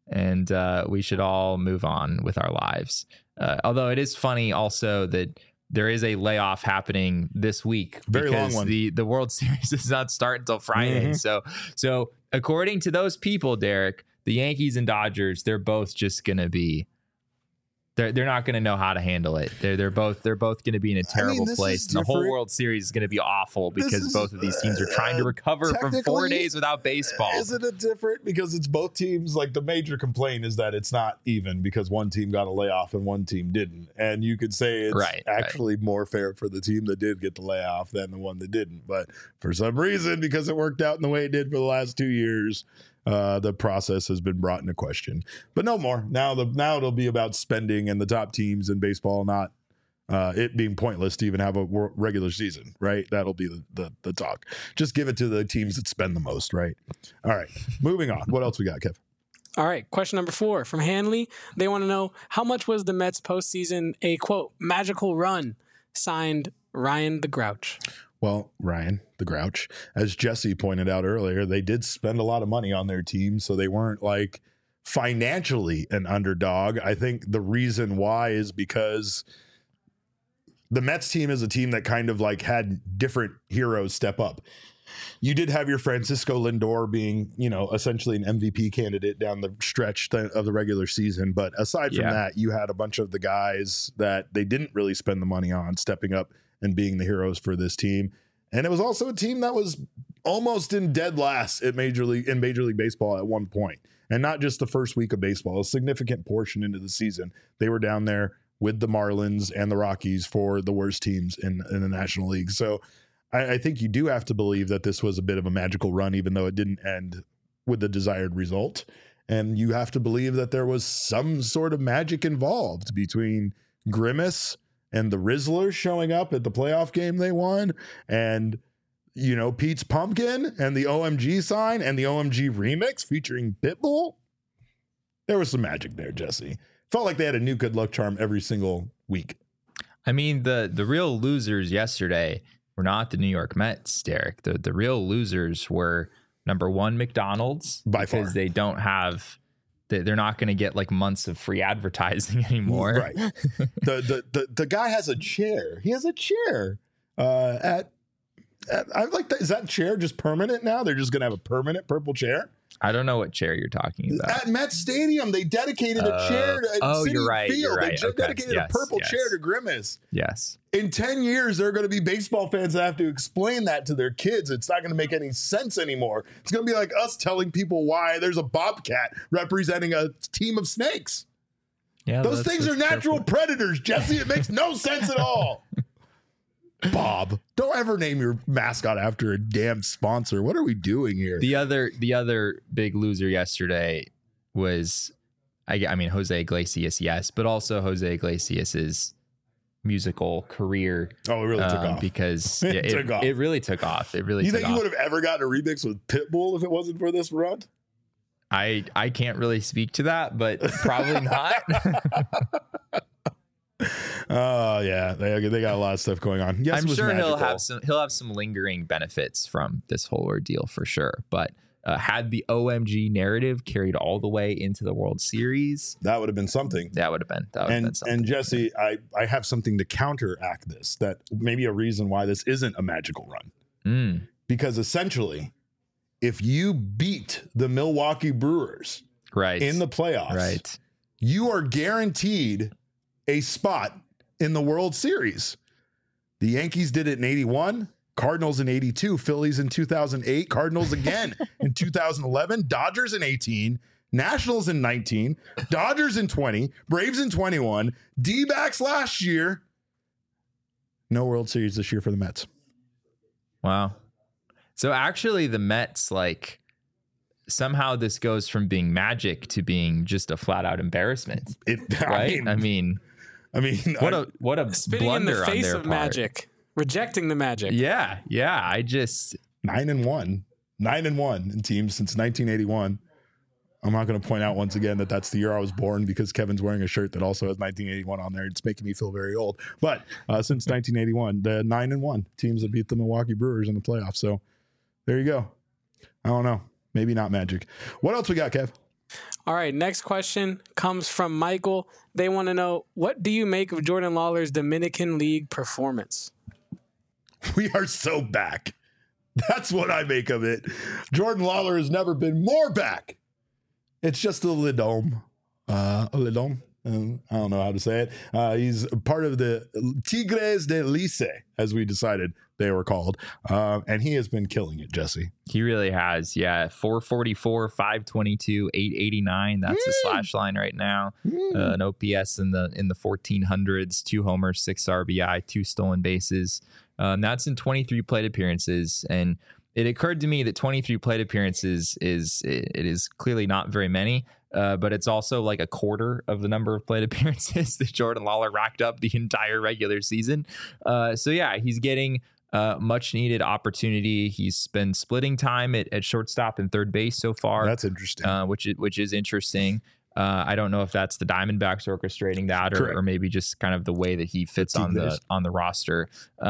and we should all move on with our lives. Although it is funny also that there is a layoff happening this week Very long because one. the World Series does not start until Friday. So according to those people, Derek, the Yankees and Dodgers, they're both just going to be. They're not going to know how to handle it. They're both going to be in a terrible place. And the whole World Series is going to be awful because both of these teams are trying to recover from 4 days without baseball. Isn't it different? Because it's both teams. Like, the major complaint is that it's not even because one team got a layoff and one team didn't. And you could say it's actually more fair for the team that did get the layoff than the one that didn't. But for some reason, because it worked out in the way it did for the last 2 years, the process has been brought into question. But no more. Now it'll be about spending and the top teams in baseball, not it being pointless to even have a regular season, right? That'll be the talk. Just give it to the teams that spend the most, right? All right, moving on. What else we got, Kev? All right, question number 4 from Hanley. They want to know, how much was the Mets postseason a, quote, magical run? Signed, Ryan the Grouch. Well, Ryan, the Grouch, as Jesse pointed out earlier, they did spend a lot of money on their team, so they weren't like financially an underdog. I think the reason why is because the Mets team is a team that kind of like had different heroes step up. You did have your Francisco Lindor being, essentially an MVP candidate down the stretch of the regular season. But aside from that, you had a bunch of the guys that they didn't really spend the money on stepping up and being the heroes for this team. And it was also a team that was almost in dead last in Major League Baseball at one point. And not just the first week of baseball, a significant portion into the season. They were down there with the Marlins and the Rockies for the worst teams in the National League. So I think you do have to believe that this was a bit of a magical run, even though it didn't end with the desired result. And you have to believe that there was some sort of magic involved between Grimace and the Rizzlers showing up at the playoff game they won, and Pete's Pumpkin and the OMG sign and the OMG remix featuring Pitbull. There was some magic there, Jesse. Felt like they had a new good luck charm every single week. I mean, the real losers yesterday were not the New York Mets, Derek. The real losers were, number one, McDonald's, by far, because they don't have. They're not going to get like months of free advertising anymore. Right. The guy has a chair. He has a chair at I like that. Is that chair just permanent now? They're just going to have a permanent purple chair? I don't know what chair you're talking about. At Met Stadium, they dedicated a chair to Citi you're right, Field. You're right. They dedicated a purple chair to Grimace. Yes. In 10 years, there are going to be baseball fans that have to explain that to their kids. It's not going to make any sense anymore. It's going to be like us telling people why there's a bobcat representing a team of snakes. Yeah, those things are natural predators, Jesse. It makes no sense at all. Bob, don't ever name your mascot after a damn sponsor. What are we doing here? The other big loser yesterday was, I mean, Jose Iglesias, yes, but also Jose Iglesias's musical career. Oh, it really took off because it really took off. It really. You took think off. You would have ever gotten a remix with Pitbull if it wasn't for this run? I can't really speak to that, but probably not. Oh yeah, they got a lot of stuff going on. Yes, I'm sure he'll have some lingering benefits from this whole ordeal for sure. But had the OMG narrative carried all the way into the World Series, that would have been something. That would have been something. And Jesse, I have something to counteract this. That maybe a reason why this isn't a magical run. Because essentially, if you beat the Milwaukee Brewers in the playoffs, you are guaranteed a spot in the World Series. The Yankees did it in 81, Cardinals in 82, Phillies in 2008, Cardinals again in 2011, Dodgers in 18, Nationals in 19, Dodgers in 20, Braves in 21, D-backs last year. No World Series this year for the Mets. Wow. So actually the Mets, like, somehow this goes from being magic to being just a flat out embarrassment. I mean, what a spitting in the face of magic, rejecting the magic. Yeah. I just 9-1 in teams since 1981. I'm not going to point out once again that that's the year I was born because Kevin's wearing a shirt that also has 1981 on there. It's making me feel very old. But since 1981, the 9-1 teams that beat the Milwaukee Brewers in the playoffs. So there you go. I don't know. Maybe not magic. What else we got, Kev? All right, next question comes from Michael. They want to know, what do you make of Jordan Lawler's Dominican League performance? We are so back. That's what I make of it. Jordan Lawler has never been more back. It's just a lidom. I don't know how to say it. He's part of the Tigres de Lice, as we decided they were called. And he has been killing it, Jesse. He really has. Yeah. 444, 522, 889. That's the slash line right now. An OPS in the 1400s, 2 homers, 6 RBI, 2 stolen bases. That's in 23 plate appearances. And it occurred to me that 23 plate appearances is clearly not very many. But it's also like a quarter of the number of plate appearances that Jordan Lawler racked up the entire regular season. So yeah, he's getting much needed opportunity. He's been splitting time at shortstop and third base so far. That's interesting. Which is interesting. I don't know if that's the Diamondbacks orchestrating that, or maybe just kind of the way that he fits on the roster.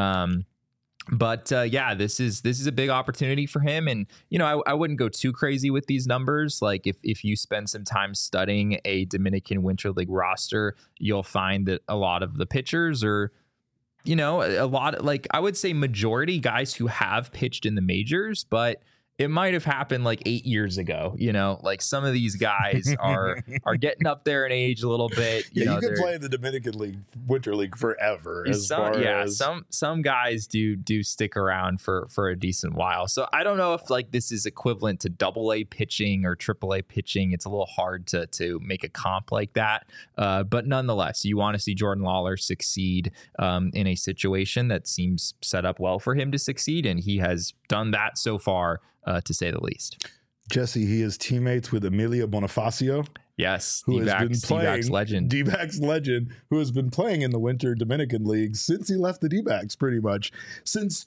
But yeah, this is a big opportunity for him. And, you know, I wouldn't go too crazy with these numbers. Like if you spend some time studying a Dominican Winter League roster, you'll find that a lot of the pitchers are, you know, I would say majority guys who have pitched in the majors, but it might have happened like 8 years ago. You know, like some of these guys are getting up there in age a little bit. You can play in the Dominican League, Winter League forever. Some guys do stick around for a decent while. So I don't know if like this is equivalent to AA pitching or AAA pitching. It's a little hard to make a comp like that. But nonetheless, you want to see Jordan Lawler succeed in a situation that seems set up well for him to succeed, and he has done that so far. To say the least. Jesse, he is teammates with Emilio Bonifacio. Yes, D-backs legend. D-backs legend, who has been playing in the Winter Dominican League since he left the D-backs, pretty much. Since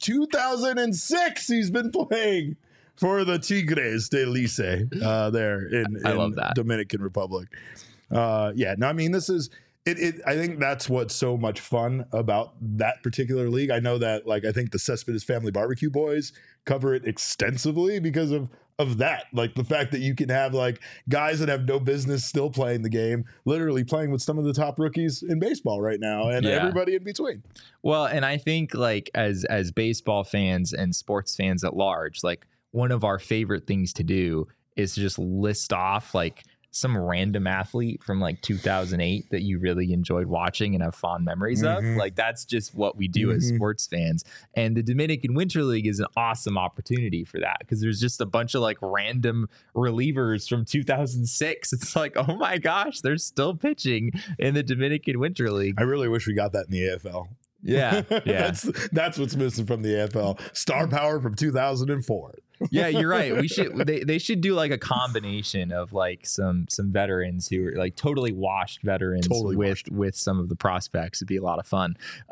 2006, he's been playing for the Tigres de Lice there in Dominican Republic. I mean, this is... I think that's what's so much fun about that particular league. I know that, like, I think the Cespedes Family Barbecue Boys cover it extensively because of that. Like the fact that you can have like guys that have no business still playing the game, literally playing with some of the top rookies in baseball right now, and everybody in between. Well, and I think like as baseball fans and sports fans at large, like one of our favorite things to do is to just list off like some random athlete from like 2008 that you really enjoyed watching and have fond memories of. Like that's just what we do as sports fans. And the Dominican Winter League is an awesome opportunity for that because there's just a bunch of like random relievers from 2006. It's like, oh my gosh, they're still pitching in the Dominican Winter League. I really wish we got that in the AFL. Yeah. That's what's missing from the AFL. Star power from 2004. Yeah, you're right. They should do like a combination of like some veterans who are like totally washed veterans with some of the prospects. It'd be a lot of fun.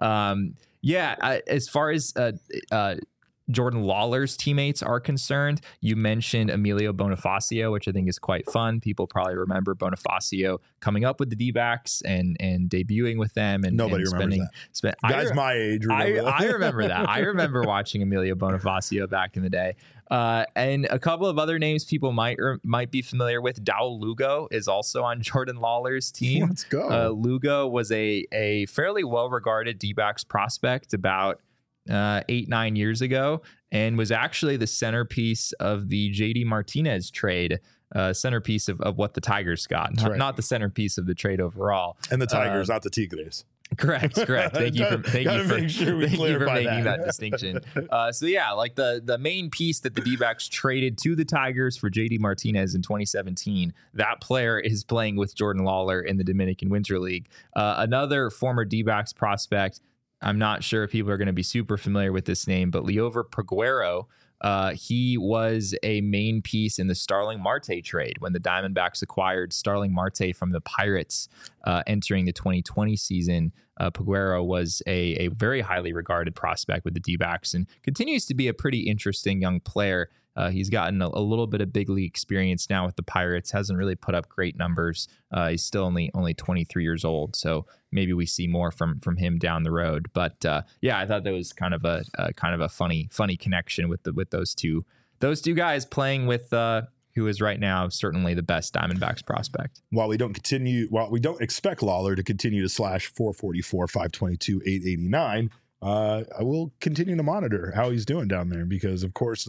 As far as Jordan Lawler's teammates are concerned, you mentioned Emilio Bonifacio, which I think is quite fun. People probably remember Bonifacio coming up with the D-backs and debuting with them. And nobody remembers that. Guys my age remember I remember that. I remember watching Emilio Bonifacio back in the day. And a couple of other names people might be familiar with. Dowell Lugo is also on Jordan Lawler's team. Let's go. Lugo was a fairly well-regarded D-backs prospect about 8-9 years ago, and was actually the centerpiece of the JD Martinez trade, centerpiece of what the Tigers got, not the centerpiece of the trade overall. And the Tigers, not the Tigres. Correct. Thank you for making that distinction. So yeah, like the main piece that the D-backs traded to the Tigers for JD Martinez in 2017, that player is playing with Jordan Lawler in the Dominican Winter League. Another former D-backs prospect, I'm not sure if people are going to be super familiar with this name, but Liover Peguero, he was a main piece in the Starling Marte trade when the Diamondbacks acquired Starling Marte from the Pirates entering the 2020 season. Peguero was a very highly regarded prospect with the D-backs and continues to be a pretty interesting young player. He's gotten a little bit of big league experience now with the Pirates. Hasn't really put up great numbers. He's still only 23 years old, so maybe we see more from him down the road. But I thought that was kind of a funny connection with those two guys playing with who is right now certainly the best Diamondbacks prospect. While we don't expect Lawler to continue to slash 444, 522, 889, I will continue to monitor how he's doing down there because, of course,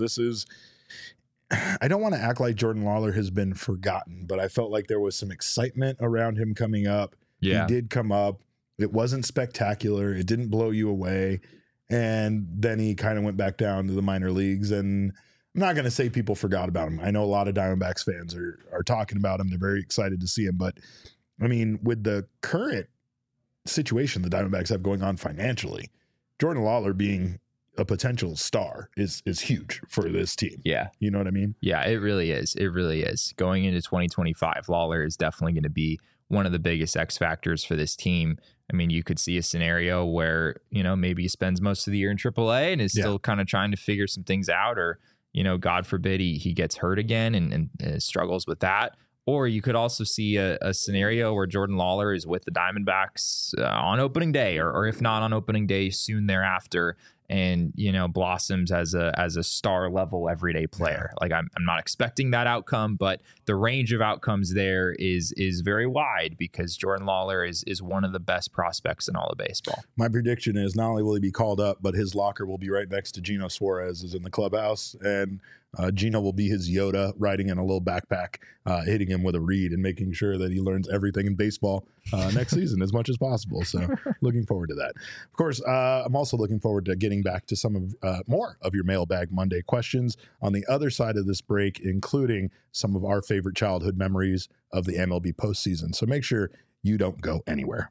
I don't want to act like Jordan Lawler has been forgotten, but I felt like there was some excitement around him coming up. Yeah. He did come up. It wasn't spectacular. It didn't blow you away. And then he kind of went back down to the minor leagues. And I'm not going to say people forgot about him. I know a lot of Diamondbacks fans are talking about him. They're very excited to see him. But, I mean, with the current situation the Diamondbacks have going on financially, Jordan Lawler being a potential star is huge for this team. Yeah. You know what I mean? Yeah, it really is. It really is. Going into 2025, Lawler is definitely going to be one of the biggest X factors for this team. I mean, you could see a scenario where, maybe he spends most of the year in AAA and is still kind of trying to figure some things out, or, God forbid he gets hurt again and struggles with that. Or you could also see a scenario where Jordan Lawler is with the Diamondbacks on opening day, or if not on opening day, soon thereafter, and blossoms as a star level everyday player. Like I'm not expecting that outcome, but the range of outcomes there is very wide because Jordan Lawler is one of the best prospects in all of baseball. My prediction is not only will he be called up, but his locker will be right next to Gino Suarez is in the clubhouse, and Gino will be his Yoda riding in a little backpack, hitting him with a reed and making sure that he learns everything in baseball next season as much as possible. So looking forward to that. Of course, I'm also looking forward to getting back to some of more of your Mailbag Monday questions on the other side of this break, including some of our favorite childhood memories of the MLB postseason. So make sure you don't go anywhere.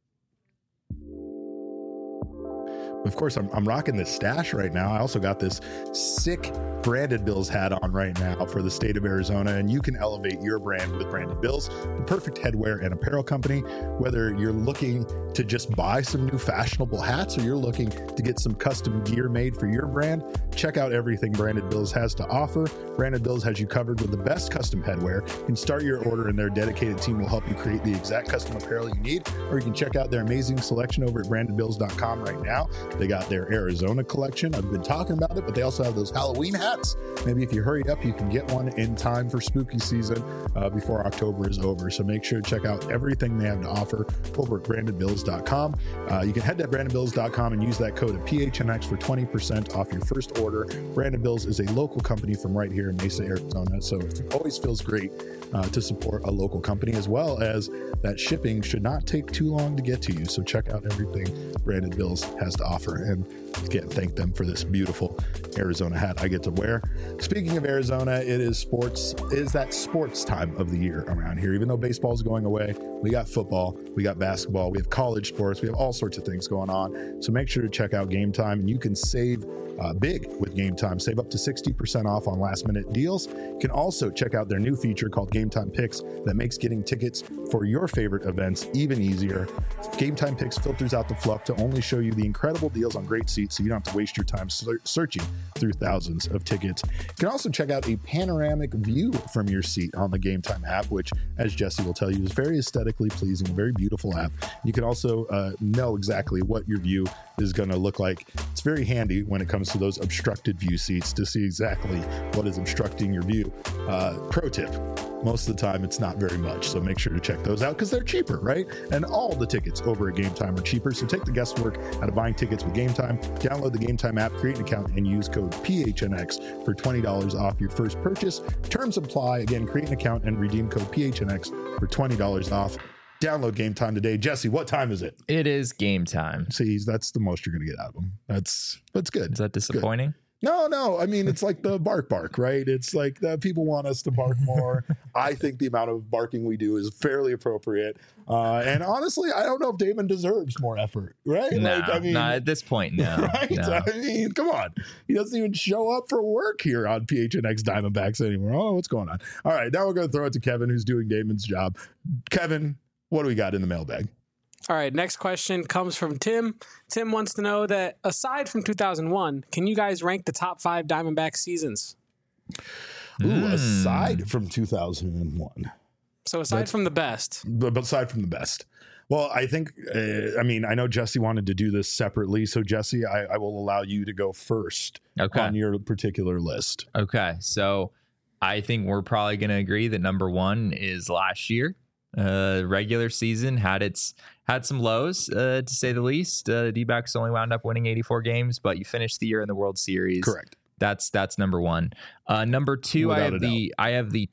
Of course, I'm rocking this stash right now. I also got this sick Branded Bills hat on right now for the state of Arizona, and you can elevate your brand with Branded Bills, the perfect headwear and apparel company. Whether you're looking to just buy some new fashionable hats or you're looking to get some custom gear made for your brand, check out everything Branded Bills has to offer. Branded Bills has you covered with the best custom headwear. You can start your order and their dedicated team will help you create the exact custom apparel you need, or you can check out their amazing selection over at brandedbills.com right now. They got their Arizona collection. I've been talking about it, but they also have those Halloween hats. Maybe if you hurry up, you can get one in time for spooky season before October is over. So make sure to check out everything they have to offer over at brandedbills.com. You can head to brandedbills.com and use that code of PHNX for 20% off your first order. Branded Bills is a local company from right here in Mesa, Arizona. So it always feels great to support a local company, as well as that shipping should not take too long to get to you. So check out everything Branded Bills has to offer. And again, thank them for this beautiful Arizona hat I get to wear. Speaking of Arizona, it is that sports time of the year around here. Even though baseball is going away, we got football, we got basketball, we have college sports, we have all sorts of things going on. So make sure to check out Game Time, and you can save big with Game Time. Save up to 60% off on last minute deals. You can also check out their new feature called Game Time Picks that makes getting tickets for your favorite events even easier. Game Time Picks filters out the fluff to only show you the incredible deals on great seats, so you don't have to waste your time searching through thousands of tickets. You can also check out a panoramic view from your seat on the Game Time app, which, as Jesse will tell you, is very aesthetically pleasing, a very beautiful app. You can also know exactly what your view is going to look like. It's very handy when it comes to those obstructed view seats to see exactly what is obstructing your view. Pro tip: most of the time it's not very much, so make sure to check those out because they're cheaper, right? And all the tickets over at Game Time are cheaper, so take the guesswork out of buying tickets with Game Time. Download the Game Time app, create an account, and use code PHNX for $20 off your first purchase. Terms apply. Again, create an account and redeem code PHNX for $20 off. Download Game Time today. Jesse, what time is it? It is game time. See, that's the most you're going to get out of them. That's good. Is that disappointing? No. I mean, it's like the bark, right? It's like the people want us to bark more. I think the amount of barking we do is fairly appropriate. And honestly, I don't know if Damon deserves more effort, right? No, not at this point, no. Right? No. I mean, come on. He doesn't even show up for work here on PHNX Diamondbacks anymore. Oh, what's going on? All right, now we're going to throw it to Kevin, who's doing Damon's job. Kevin, what do we got in the mailbag? All right, next question comes from Tim. Tim wants to know that aside from 2001, can you guys rank the top 5 Diamondback seasons? Ooh, aside from 2001. So aside from the best. But aside from the best. Well, I think, I know Jesse wanted to do this separately. So, Jesse, I will allow you to go first on your particular list. Okay. So I think we're probably going to agree that number one is last year. Regular season had some lows, to say the least. D-backs only wound up winning 84 games, but you finished the year in the World Series. Correct. That's number one. Number two, Without I have the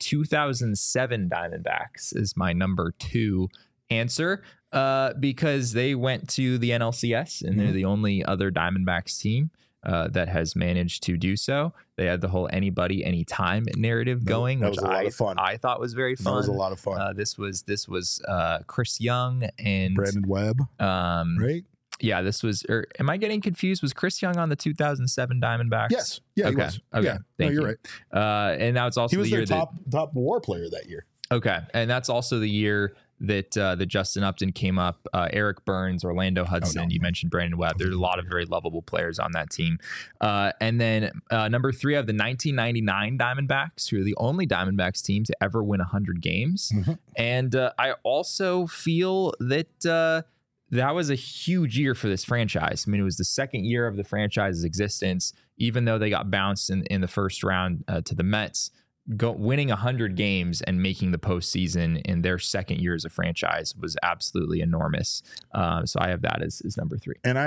2007 Diamondbacks is my number two answer, because they went to the NLCS and they're the only other Diamondbacks team that has managed to do so. They had the whole anybody, anytime narrative going, that which was a lot of fun. I thought was very fun. That was a lot of fun. This was Chris Young and Brandon Webb, right? Yeah, this was. Or am I getting confused? Was Chris Young on the 2007 Diamondbacks? Yes. Yeah. Okay. He was. Okay. Yeah. Thank you're you. right. And that was also He was the year their top WAR player that year. Okay, and that's also the year that Justin Upton came up. Eric Burns, Orlando Hudson. You mentioned Brandon Webb. There's a lot of very lovable players on that team. And then number three, I have the 1999 Diamondbacks, who are the only Diamondbacks team to ever win 100 games. And I also feel that that was a huge year for this franchise. I mean, it was the second year of the franchise's existence, even though they got bounced in the first round to the Mets. Winning 100 games and making the postseason in their second year as a franchise was absolutely enormous. So I have that as number three. And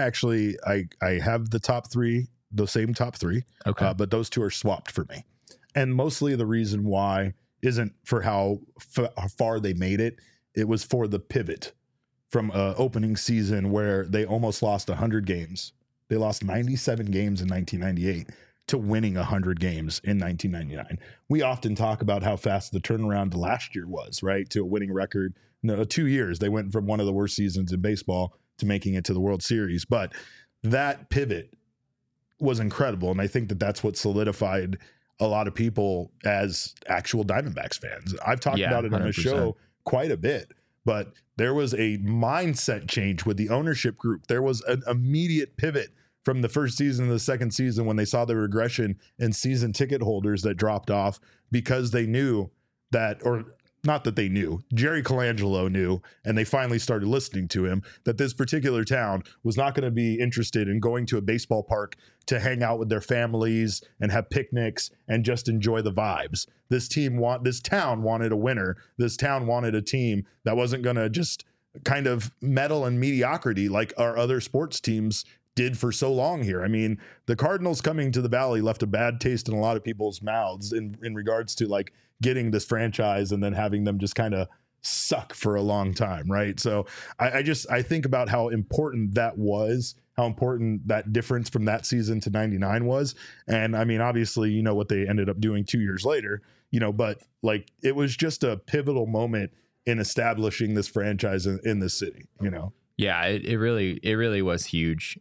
I have the top three, the same top three. Okay. But those two are swapped for me. And mostly the reason why isn't for how far they made it. It was for the pivot from opening season where they almost lost 100 games. They lost 97 games in 1998. To winning 100 games in 1999. We often talk about how fast the turnaround to last year was, right? To a winning record. No, 2 years. They went from one of the worst seasons in baseball to making it to the World Series. But that pivot was incredible. And I think that that's what solidified a lot of people as actual Diamondbacks fans. I've talked about it on the show quite a bit, but there was a mindset change with the ownership group. There was an immediate pivot from the first season to the second season when they saw the regression in season ticket holders that dropped off because they knew that, or not that they knew, Jerry Colangelo knew, and they finally started listening to him, that this particular town was not going to be interested in going to a baseball park to hang out with their families and have picnics and just enjoy the vibes. This town wanted a winner. This town wanted a team that wasn't going to just kind of meddle in mediocrity like our other sports teams did for so long here. I mean, the Cardinals coming to the Valley left a bad taste in a lot of people's mouths in regards to like getting this franchise and then having them just kind of suck for a long time, right? So I think about how important that was, how important that difference from that season to 99 was. And I mean, obviously, you know what they ended up doing 2 years later, you know, but like it was just a pivotal moment in establishing this franchise in this city, you know? Yeah, it really was huge.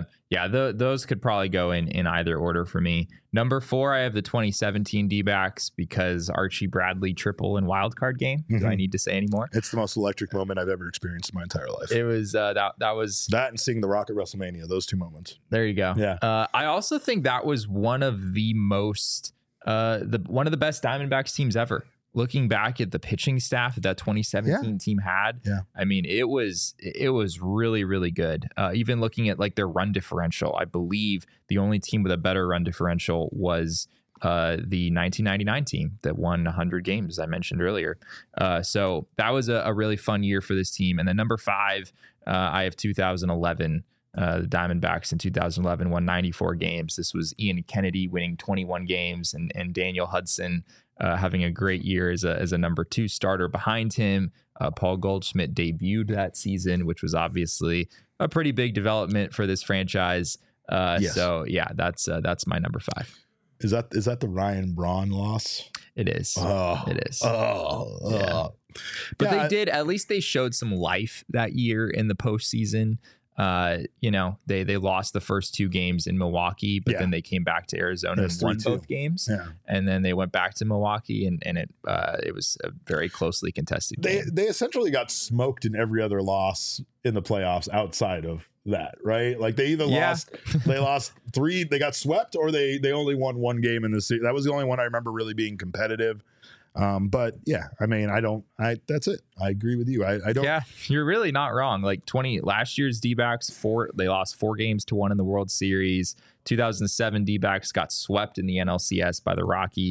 Those could probably go in either order for me. Number four, I have the 2017 D-backs because Archie Bradley triple and wild card game. Do I need to say anymore? It's the most electric moment I've ever experienced in my entire life. It was that was that and seeing The Rock at WrestleMania. Those two moments. There you go. Yeah. I also think that was one of the most one of the best Diamondbacks teams ever. Looking back at the pitching staff that 2017 team had, I mean, it was really, really good. Even looking at like their run differential, I believe the only team with a better run differential was the 1999 team that won 100 games, as I mentioned earlier. So that was a really fun year for this team. And then number five, I have 2011. The Diamondbacks in 2011 won 94 games. This was Ian Kennedy winning 21 games and Daniel Hudson having a great year as a number two starter behind him. Paul Goldschmidt debuted that season, which was obviously a pretty big development for this franchise. Yes. So yeah, that's my number five. Is that the Ryan Braun loss? It is. Oh, it is. Yeah. But they did, at least they showed some life that year in the postseason. You know, they lost the first two games in Milwaukee, but then they came back to Arizona and won both games. Yeah. And then they went back to Milwaukee and it was a very closely contested game. They essentially got smoked in every other loss in the playoffs outside of that, right? Like they either lost three, they got swept, or they only won one game in the season. That was the only one I remember really being competitive. But yeah, I mean, that's it. I agree with you. I don't. Yeah, you're really not wrong. Like last year's D-backs, they lost 4-1 in the World Series. 2007 D-backs got swept in the NLCS by the Rockies.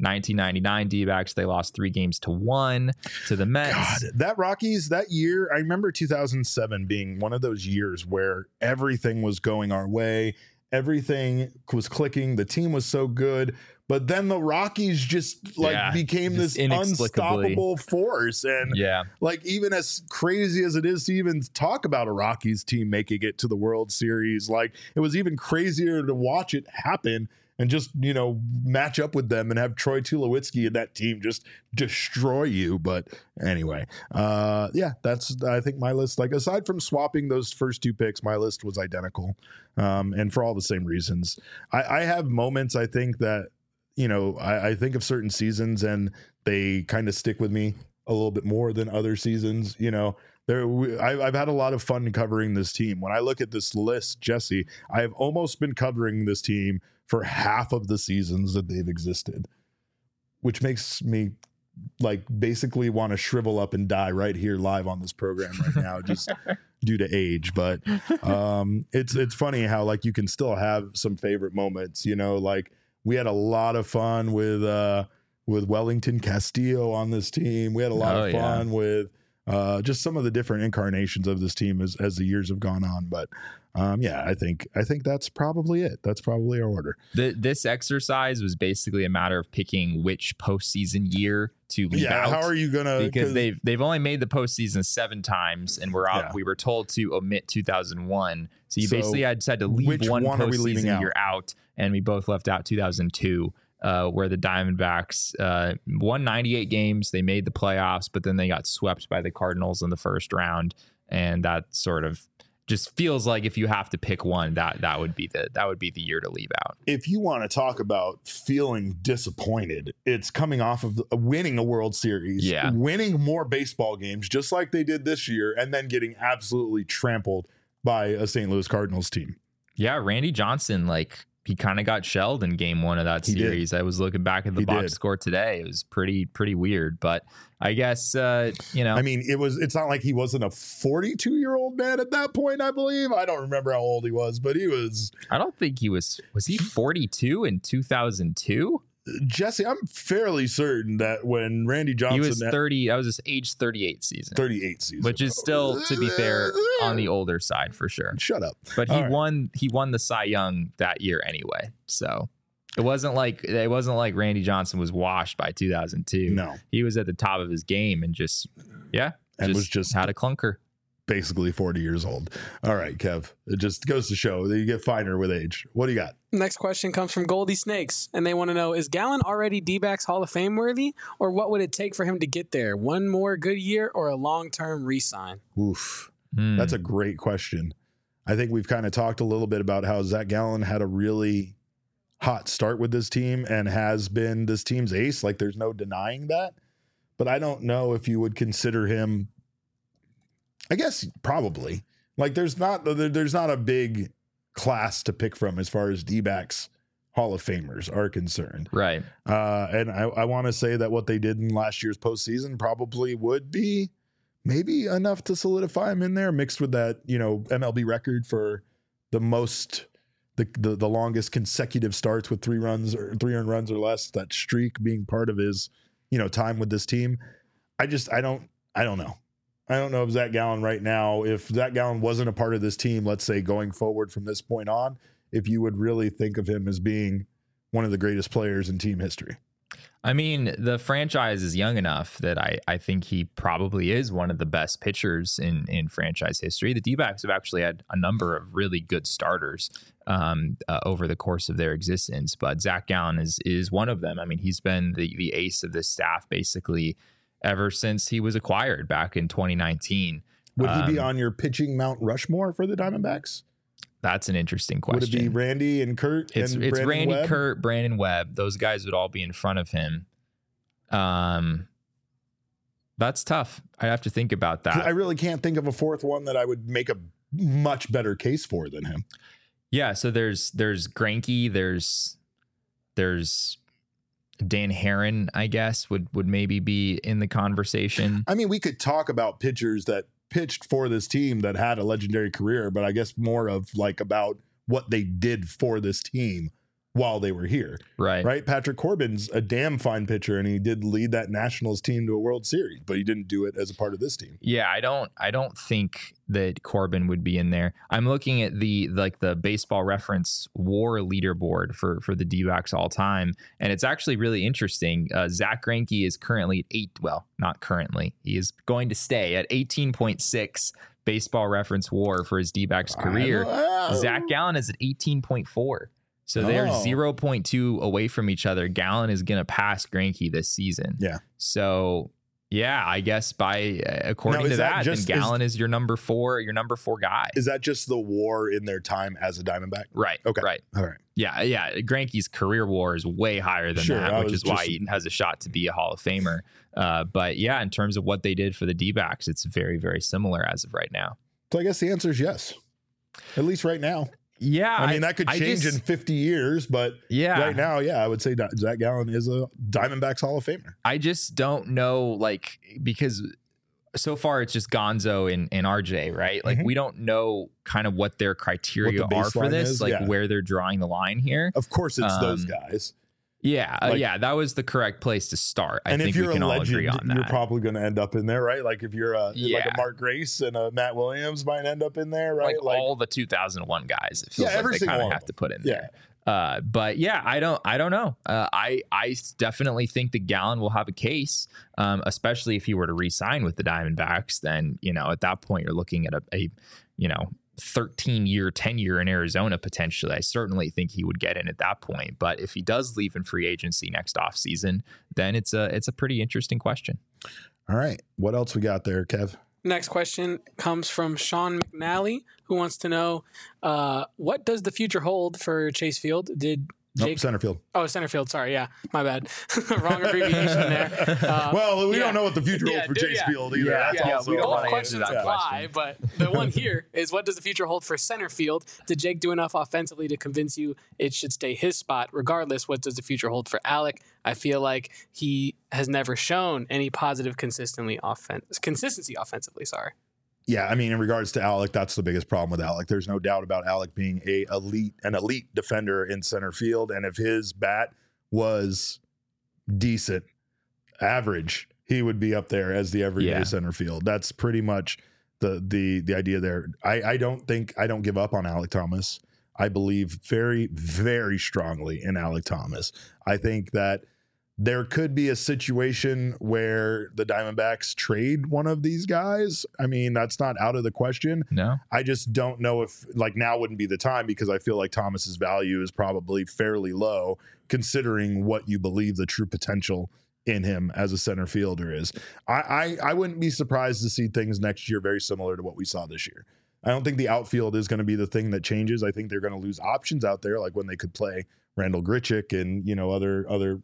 1999 D-backs, they lost 3-1 to the Mets. God, that Rockies that year, I remember 2007 being one of those years where everything was going our way. Everything was clicking. The team was so good. But then the Rockies just became just this unstoppable force. And like, even as crazy as it is to even talk about a Rockies team making it to the World Series, like, it was even crazier to watch it happen and just, you know, match up with them and have Troy Tulowitzki and that team just destroy you. But anyway, that's, I think, my list. Like, aside from swapping those first 2 picks, my list was identical. And for all the same reasons. I have moments, I think, that, you know, I think of certain seasons and they kind of stick with me a little bit more than other seasons. You know, I've had a lot of fun covering this team. When I look at this list, Jesse, I have almost been covering this team for half of the seasons that they've existed, which makes me like basically want to shrivel up and die right here live on this program right now, just due to age. But it's funny how, like, you can still have some favorite moments, you know, like, we had a lot of fun with Wellington Castillo on this team. We had a lot of fun with just some of the different incarnations of this team as the years have gone on. But I think that's probably it. That's probably our order. This exercise was basically a matter of picking which postseason year to leave out. How are you gonna? Because they've only made the postseason 7 times, and we were told to omit 2001. So you basically had to leave one postseason year out, and we both left out 2002. Where the Diamondbacks won 98 games. They made the playoffs, but then they got swept by the Cardinals in the first round. And that sort of just feels like if you have to pick one, that would be the year to leave out. If you want to talk about feeling disappointed, it's coming off of winning a World Series, winning more baseball games, just like they did this year, and then getting absolutely trampled by a St. Louis Cardinals team. Yeah, Randy Johnson, like, he kind of got shelled in game 1 of that series. I was looking back at the box score today. It was pretty weird, but I guess, you know, I mean, it's not like he wasn't a 42-year-old man at that point, I believe. I don't remember how old he was, but he was. I don't think he was he 42 in 2002? Jesse, I'm fairly certain that when Randy Johnson, he was 30, that was his age 38 season. 38 season. Which is still, to be fair, on the older side for sure. Shut up. But he won the Cy Young that year anyway. So it wasn't like Randy Johnson was washed by 2002. No. He was at the top of his game and just was just had a clunker. Basically 40 years old. All right, Kev. It just goes to show that you get finer with age. What do you got? Next question comes from Goldie Snakes, and they want to know, is Gallen already D-backs Hall of Fame worthy, or what would it take for him to get there? One more good year or a long-term re-sign? Oof. That's a great question. I think we've kind of talked a little bit about how Zach Gallen had a really hot start with this team and has been this team's ace. Like, there's no denying that. But I don't know if you would consider him. I guess probably. Like, there's not a big class to pick from as far as D-backs Hall of Famers are concerned. Right. And I want to say that what they did in last year's postseason probably would be maybe enough to solidify him in there, mixed with that, you know, MLB record for the longest consecutive starts with 3 earned runs or less, that streak being part of his, you know, time with this team. I don't know. I don't know if Zach Gallen right now, if Zach Gallen wasn't a part of this team, let's say going forward from this point on, if you would really think of him as being one of the greatest players in team history. I mean, the franchise is young enough that I think he probably is one of the best pitchers in franchise history. The D-backs have actually had a number of really good starters over the course of their existence, but Zach Gallen is one of them. I mean, he's been the ace of this staff basically ever since he was acquired back in 2019. Would he be on your pitching Mount Rushmore for the Diamondbacks? That's an interesting question. Would it be Randy and Kurt? It's Randy, Webb? Kurt, Brandon Webb. Those guys would all be in front of him. That's tough. I have to think about that. I really can't think of a fourth one that I would make a much better case for than him. Yeah. So there's Greinke. There's Dan Herron, I guess, would maybe be in the conversation. I mean, we could talk about pitchers that pitched for this team that had a legendary career, but I guess more of like about what they did for this team while they were here. Right. Patrick Corbin's a damn fine pitcher, and he did lead that Nationals team to a World Series, but he didn't do it as a part of this team. Yeah, I don't think that Corbin would be in there. I'm looking at the Baseball Reference WAR leaderboard for the D-backs all time, and it's actually really interesting. Zach Greinke is currently at not currently. He is going to stay at 18.6 Baseball Reference WAR for his D-backs career. Zach Gallen is at 18.4. So they're 0.2 away from each other. Gallen is going to pass Greinke this season. Yeah. So, yeah, I guess according to that, then Gallen is your number four guy. Is that just the WAR in their time as a Diamondback? Right. Okay. Right. All right. Yeah. Greinke's career WAR is way higher than that, which is why he has a shot to be a Hall of Famer. But yeah, in terms of what they did for the D-backs, it's very, very similar as of right now. So I guess the answer is yes, at least right now. Yeah, I mean, that could change in 50 years, but right now, I would say Zach Gallen is a Diamondbacks Hall of Famer. I just don't know, because so far it's just Gonzo and RJ, right? Like, we don't know kind of what their criteria are for this, where they're drawing the line here. Of course, it's those guys. Yeah, that was the correct place to start. I think we can all agree on that. You're probably going to end up in there, right? Like if you're like a Mark Grace and a Matt Williams might end up in there, right? Like all the 2001 guys, it feels like they kind of have to put in there. But yeah, I don't know. I definitely think that Gallen will have a case, especially if he were to re-sign with the Diamondbacks. Then at that point you're looking at a 13-year tenure in Arizona potentially. I certainly think he would get in at that point. But if he does leave in free agency next offseason, then it's a pretty interesting question. All right, what else we got there, Kev? Next question comes from Sean McNally, who wants to know what does the future hold for Chase Field? Center field. Oh, center field. Sorry. Yeah, my bad. Wrong abbreviation there. Well, we don't know what the future holds for Chase Field either. We don't want to answer that question. But the one here is, what does the future hold for center field? Did Jake do enough offensively to convince you it should stay his spot? Regardless, what does the future hold for Alec? I feel like he has never shown any positive consistency offensively. Sorry. Yeah, I mean, in regards to Alec, that's the biggest problem with Alec. There's no doubt about Alec being an elite defender in center field. And if his bat was decent, average, he would be up there as the everyday center field. That's pretty much the idea there. I don't give up on Alec Thomas. I believe very, very strongly in Alec Thomas. I think that there could be a situation where the Diamondbacks trade one of these guys. I mean, that's not out of the question. No. I just don't know if now wouldn't be the time, because I feel like Thomas's value is probably fairly low considering what you believe the true potential in him as a center fielder is. I wouldn't be surprised to see things next year very similar to what we saw this year. I don't think the outfield is going to be the thing that changes. I think they're going to lose options out there, like when they could play Randall Grichuk and other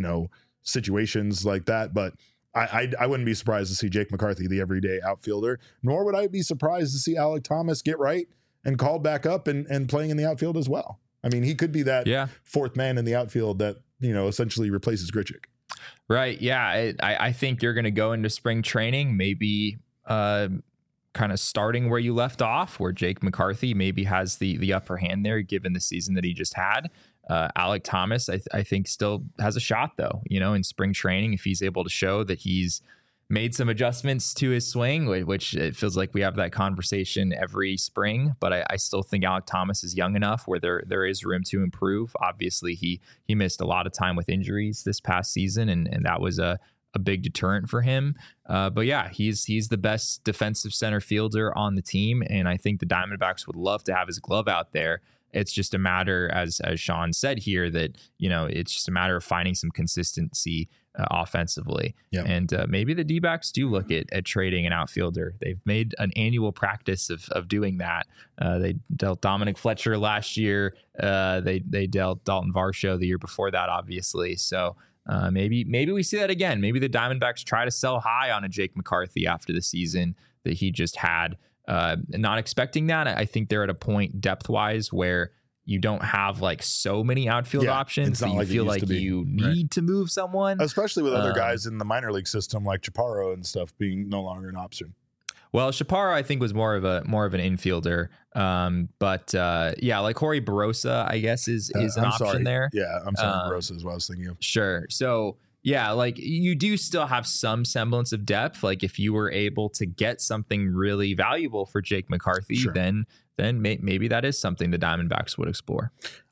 situations like that. But I wouldn't be surprised to see Jake McCarthy, the everyday outfielder, nor would I be surprised to see Alec Thomas get right and called back up and playing in the outfield as well. I mean, he could be that fourth man in the outfield that, essentially replaces Grichuk. Right. Yeah. I think you're going to go into spring training, maybe kind of starting where you left off, where Jake McCarthy maybe has the upper hand there, given the season that he just had. Alec Thomas, I think, still has a shot, though, in spring training, if he's able to show that he's made some adjustments to his swing, which it feels like we have that conversation every spring. But I still think Alec Thomas is young enough where there is room to improve. Obviously, he missed a lot of time with injuries this past season, and that was a big deterrent for him. But yeah, he's the best defensive center fielder on the team, and I think the Diamondbacks would love to have his glove out there. It's just a matter, as Sean said here, that it's just a matter of finding some consistency offensively. Yep. And maybe the D-backs do look at trading an outfielder. They've made an annual practice of doing that. They dealt Dominic Fletcher last year. They dealt Dalton Varsho the year before that, obviously. So maybe we see that again. Maybe the Diamondbacks try to sell high on a Jake McCarthy after the season that he just had. Not expecting that. I think they're at a point depth-wise where you don't have so many outfield options that you feel like you need to move someone. Especially with other guys in the minor league system like Chaparro and stuff being no longer an option. Well, Chaparro, I think, was more of an infielder. But like Jorge Barossa, I guess is an option there. Yeah, I'm sorry, Barossa is what I was thinking of. Sure. So yeah, like you do still have some semblance of depth. Like if you were able to get something really valuable for Jake McCarthy, Sure. then maybe that is something the Diamondbacks would explore.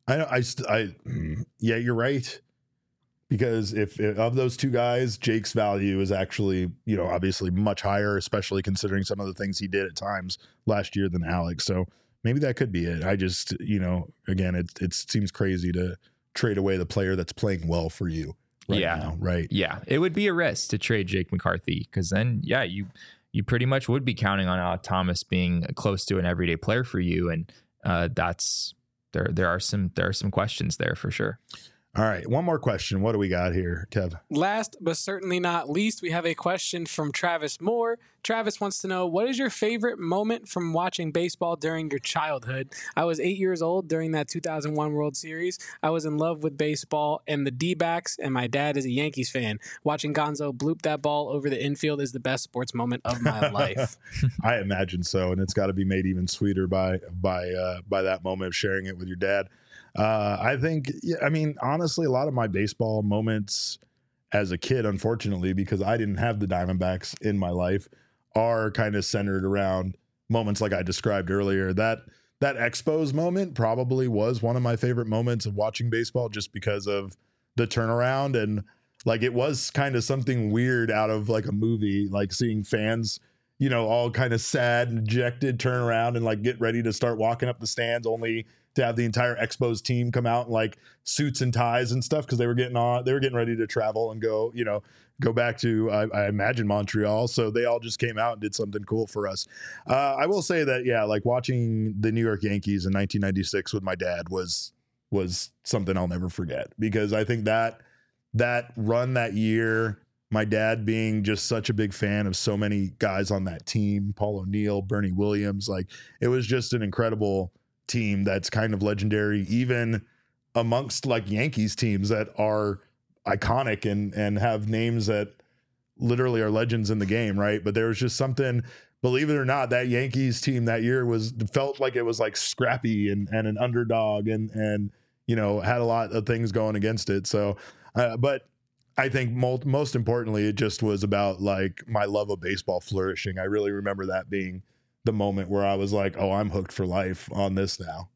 Yeah, you're right. Because if of those two guys, Jake's value is actually, obviously much higher, especially considering some of the things he did at times last year than Alex. So maybe that could be it. I just, again, it seems crazy to trade away the player that's playing well for you right now, right? Yeah, it would be a risk to trade Jake McCarthy because then, you pretty much would be counting on Alek Thomas being close to an everyday player for you, and there are some questions there for sure. All right, one more question. What do we got here, Kev? Last but certainly not least, we have a question from Travis Moore. Travis wants to know, what is your favorite moment from watching baseball during your childhood? I was 8 years old during that 2001 World Series. I was in love with baseball and the D-backs, and my dad is a Yankees fan. Watching Gonzo bloop that ball over the infield is the best sports moment of my life. I imagine so, and it's got to be made even sweeter by that moment of sharing it with your dad. I think, honestly, a lot of my baseball moments as a kid, unfortunately, because I didn't have the Diamondbacks in my life, are kind of centered around moments like I described earlier. That Expos moment probably was one of my favorite moments of watching baseball, just because of the turnaround, and like it was kind of something weird out of like a movie, like seeing fans, all kind of sad and dejected, turn around and like get ready to start walking up the stands, only to have the entire Expos team come out in like suits and ties and stuff, because they were getting ready to travel and go back to I imagine Montreal. So they all just came out and did something cool for us. I will say that, yeah, like watching the New York Yankees in 1996 with my dad was something I'll never forget, because I think that run that year, my dad being just such a big fan of so many guys on that team, Paul O'Neill, Bernie Williams, like it was just an incredible team that's kind of legendary, even amongst like Yankees teams that are iconic and have names that literally are legends in the game, right? But there was just something, believe it or not, that Yankees team that year felt like it was like scrappy and an underdog and had a lot of things going against it. So but I think most importantly, it just was about like my love of baseball flourishing. I really remember that being the moment where I was like, oh, I'm hooked for life on this now,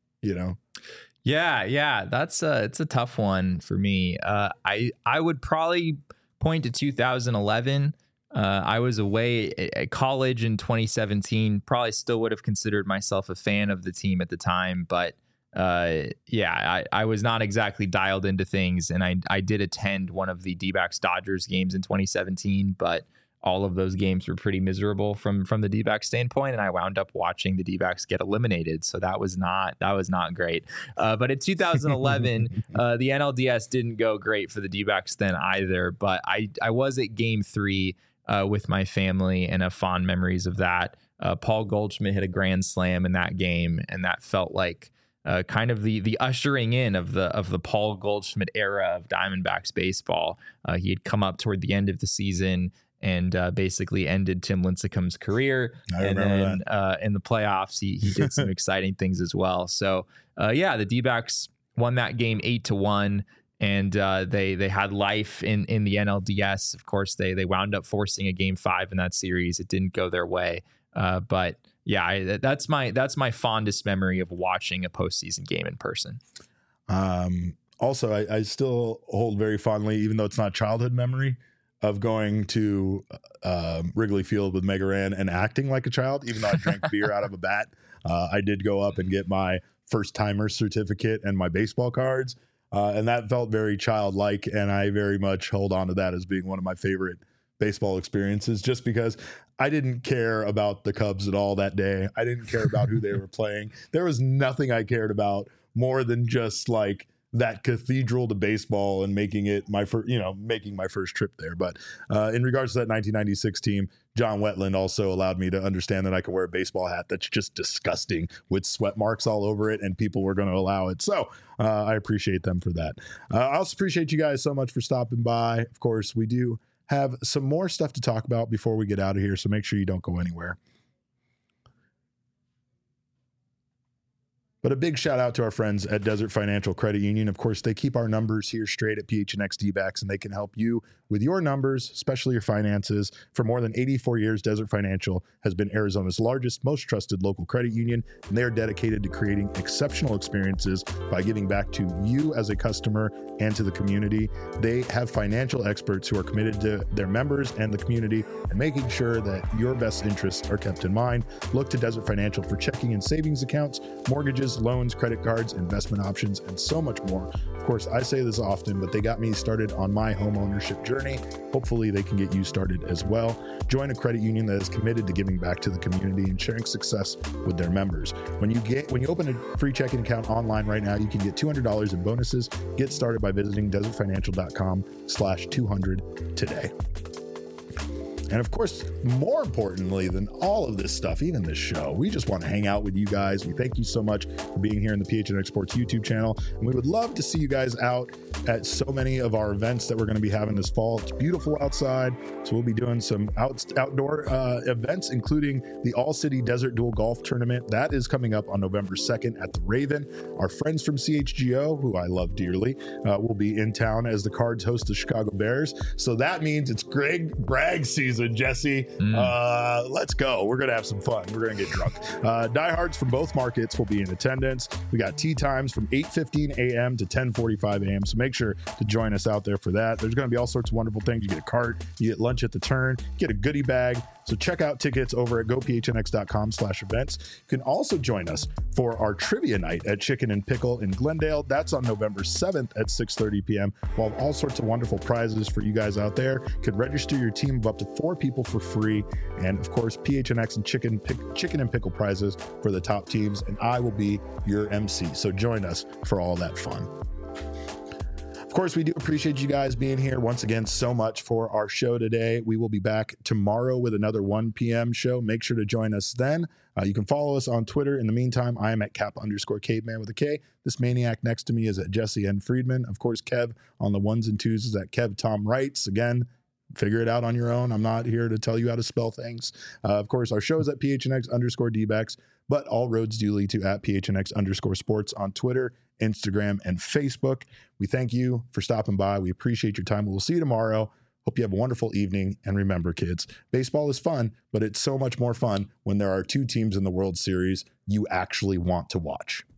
Yeah. It's a tough one for me. I would probably point to 2011. I was away at college in 2017, probably still would have considered myself a fan of the team at the time, but I was not exactly dialed into things. And I did attend one of the D-backs Dodgers games in 2017, but all of those games were pretty miserable from the D-backs standpoint, and I wound up watching the D-backs get eliminated. So that was not great. But in 2011, the NLDS didn't go great for the D-backs then either. But I was at Game 3 with my family and have fond memories of that. Paul Goldschmidt hit a grand slam in that game, and that felt like kind of the ushering in of the Paul Goldschmidt era of Diamondbacks baseball. He had come up toward the end of the season and basically ended Tim Lincecum's career. And then in the playoffs, he did some exciting things as well. So the D-backs won that game 8-1, and they had life in the NLDS. Of course, they wound up forcing a Game 5 in that series. It didn't go their way, but yeah, that's my fondest memory of watching a postseason game in person. Also, I still hold very fondly, even though it's not childhood memory, of going to Wrigley Field with Mega Ran and acting like a child, even though I drank beer out of a bat. I did go up and get my first timer certificate and my baseball cards. And that felt very childlike. And I very much hold on to that as being one of my favorite baseball experiences, just because I didn't care about the Cubs at all that day. I didn't care about who they were playing. There was nothing I cared about more than just like that cathedral to baseball and making it my first trip there. But in regards to that 1996 team, John Wetland also allowed me to understand that I could wear a baseball hat that's just disgusting with sweat marks all over it, and people were going to allow it. So I appreciate them for that. I also appreciate you guys so much for stopping by. Of course, we do have some more stuff to talk about before we get out of here, so make sure you don't go anywhere. But a big shout out to our friends at Desert Financial Credit Union. Of course, they keep our numbers here straight at PHNX D-backs, and they can help you with your numbers, especially your finances. For more than 84 years, Desert Financial has been Arizona's largest, most trusted local credit union, and they are dedicated to creating exceptional experiences by giving back to you as a customer and to the community. They have financial experts who are committed to their members and the community and making sure that your best interests are kept in mind. Look to Desert Financial for checking and savings accounts, mortgages, loans, credit cards, investment options, and so much more. Of course, I say this often, but they got me started on my home ownership journey. Hopefully they can get you started as well. Join a credit union that is committed to giving back to the community and sharing success with their members. When you open a free checking account online right now, you can get $200 in bonuses. Get started by visiting desertfinancial.com/200 today. And of course, more importantly than all of this stuff, even this show, we just want to hang out with you guys. We thank you so much for being here in the PHNX Sports YouTube channel. And we would love to see you guys out at so many of our events that we're going to be having this fall. It's beautiful outside. So we'll be doing some outdoor events, including the All-City Desert Duel Golf Tournament. That is coming up on November 2nd at the Raven. Our friends from CHGO, who I love dearly, will be in town as the Cards host the Chicago Bears. So that means it's Greg Bragg season. Jesse, let's go. We're gonna have some fun. We're gonna get drunk. Diehards from both markets will be in attendance. We got tee times from 8:15 a.m. to 10:45 a.m. So make sure to join us out there for that. There's gonna be all sorts of wonderful things. You get a cart, you get lunch at the turn, get a goodie bag. So check out tickets over at gophnx.com/events. You can also join us for our trivia night at Chicken and Pickle in Glendale. That's on November 7th at 6:30 p.m. We'll have all sorts of wonderful prizes for you guys out there. You can register your team of up to 4 people for free. And of course, PHNX and Chicken and Pickle prizes for the top teams. And I will be your MC. So join us for all that fun. Of course, we do appreciate you guys being here once again so much for our show today. We will be back tomorrow with another 1 p.m. show. Make sure to join us then. You can follow us on Twitter. In the meantime, I am at Cap_Caveman with a K. This maniac next to me is at Jesse N. Friedman. Of course, Kev on the ones and twos is at Kev Tom Wrights. Again, figure it out on your own. I'm not here to tell you how to spell things. Of course, our show is at PHNX_D-backs, but all roads do lead to at PHNX_sports on Twitter, Instagram, and Facebook. We thank you for stopping by. We appreciate your time. We'll see you tomorrow. Hope you have a wonderful evening. And remember, kids, baseball is fun, but it's so much more fun when there are 2 teams in the World Series you actually want to watch.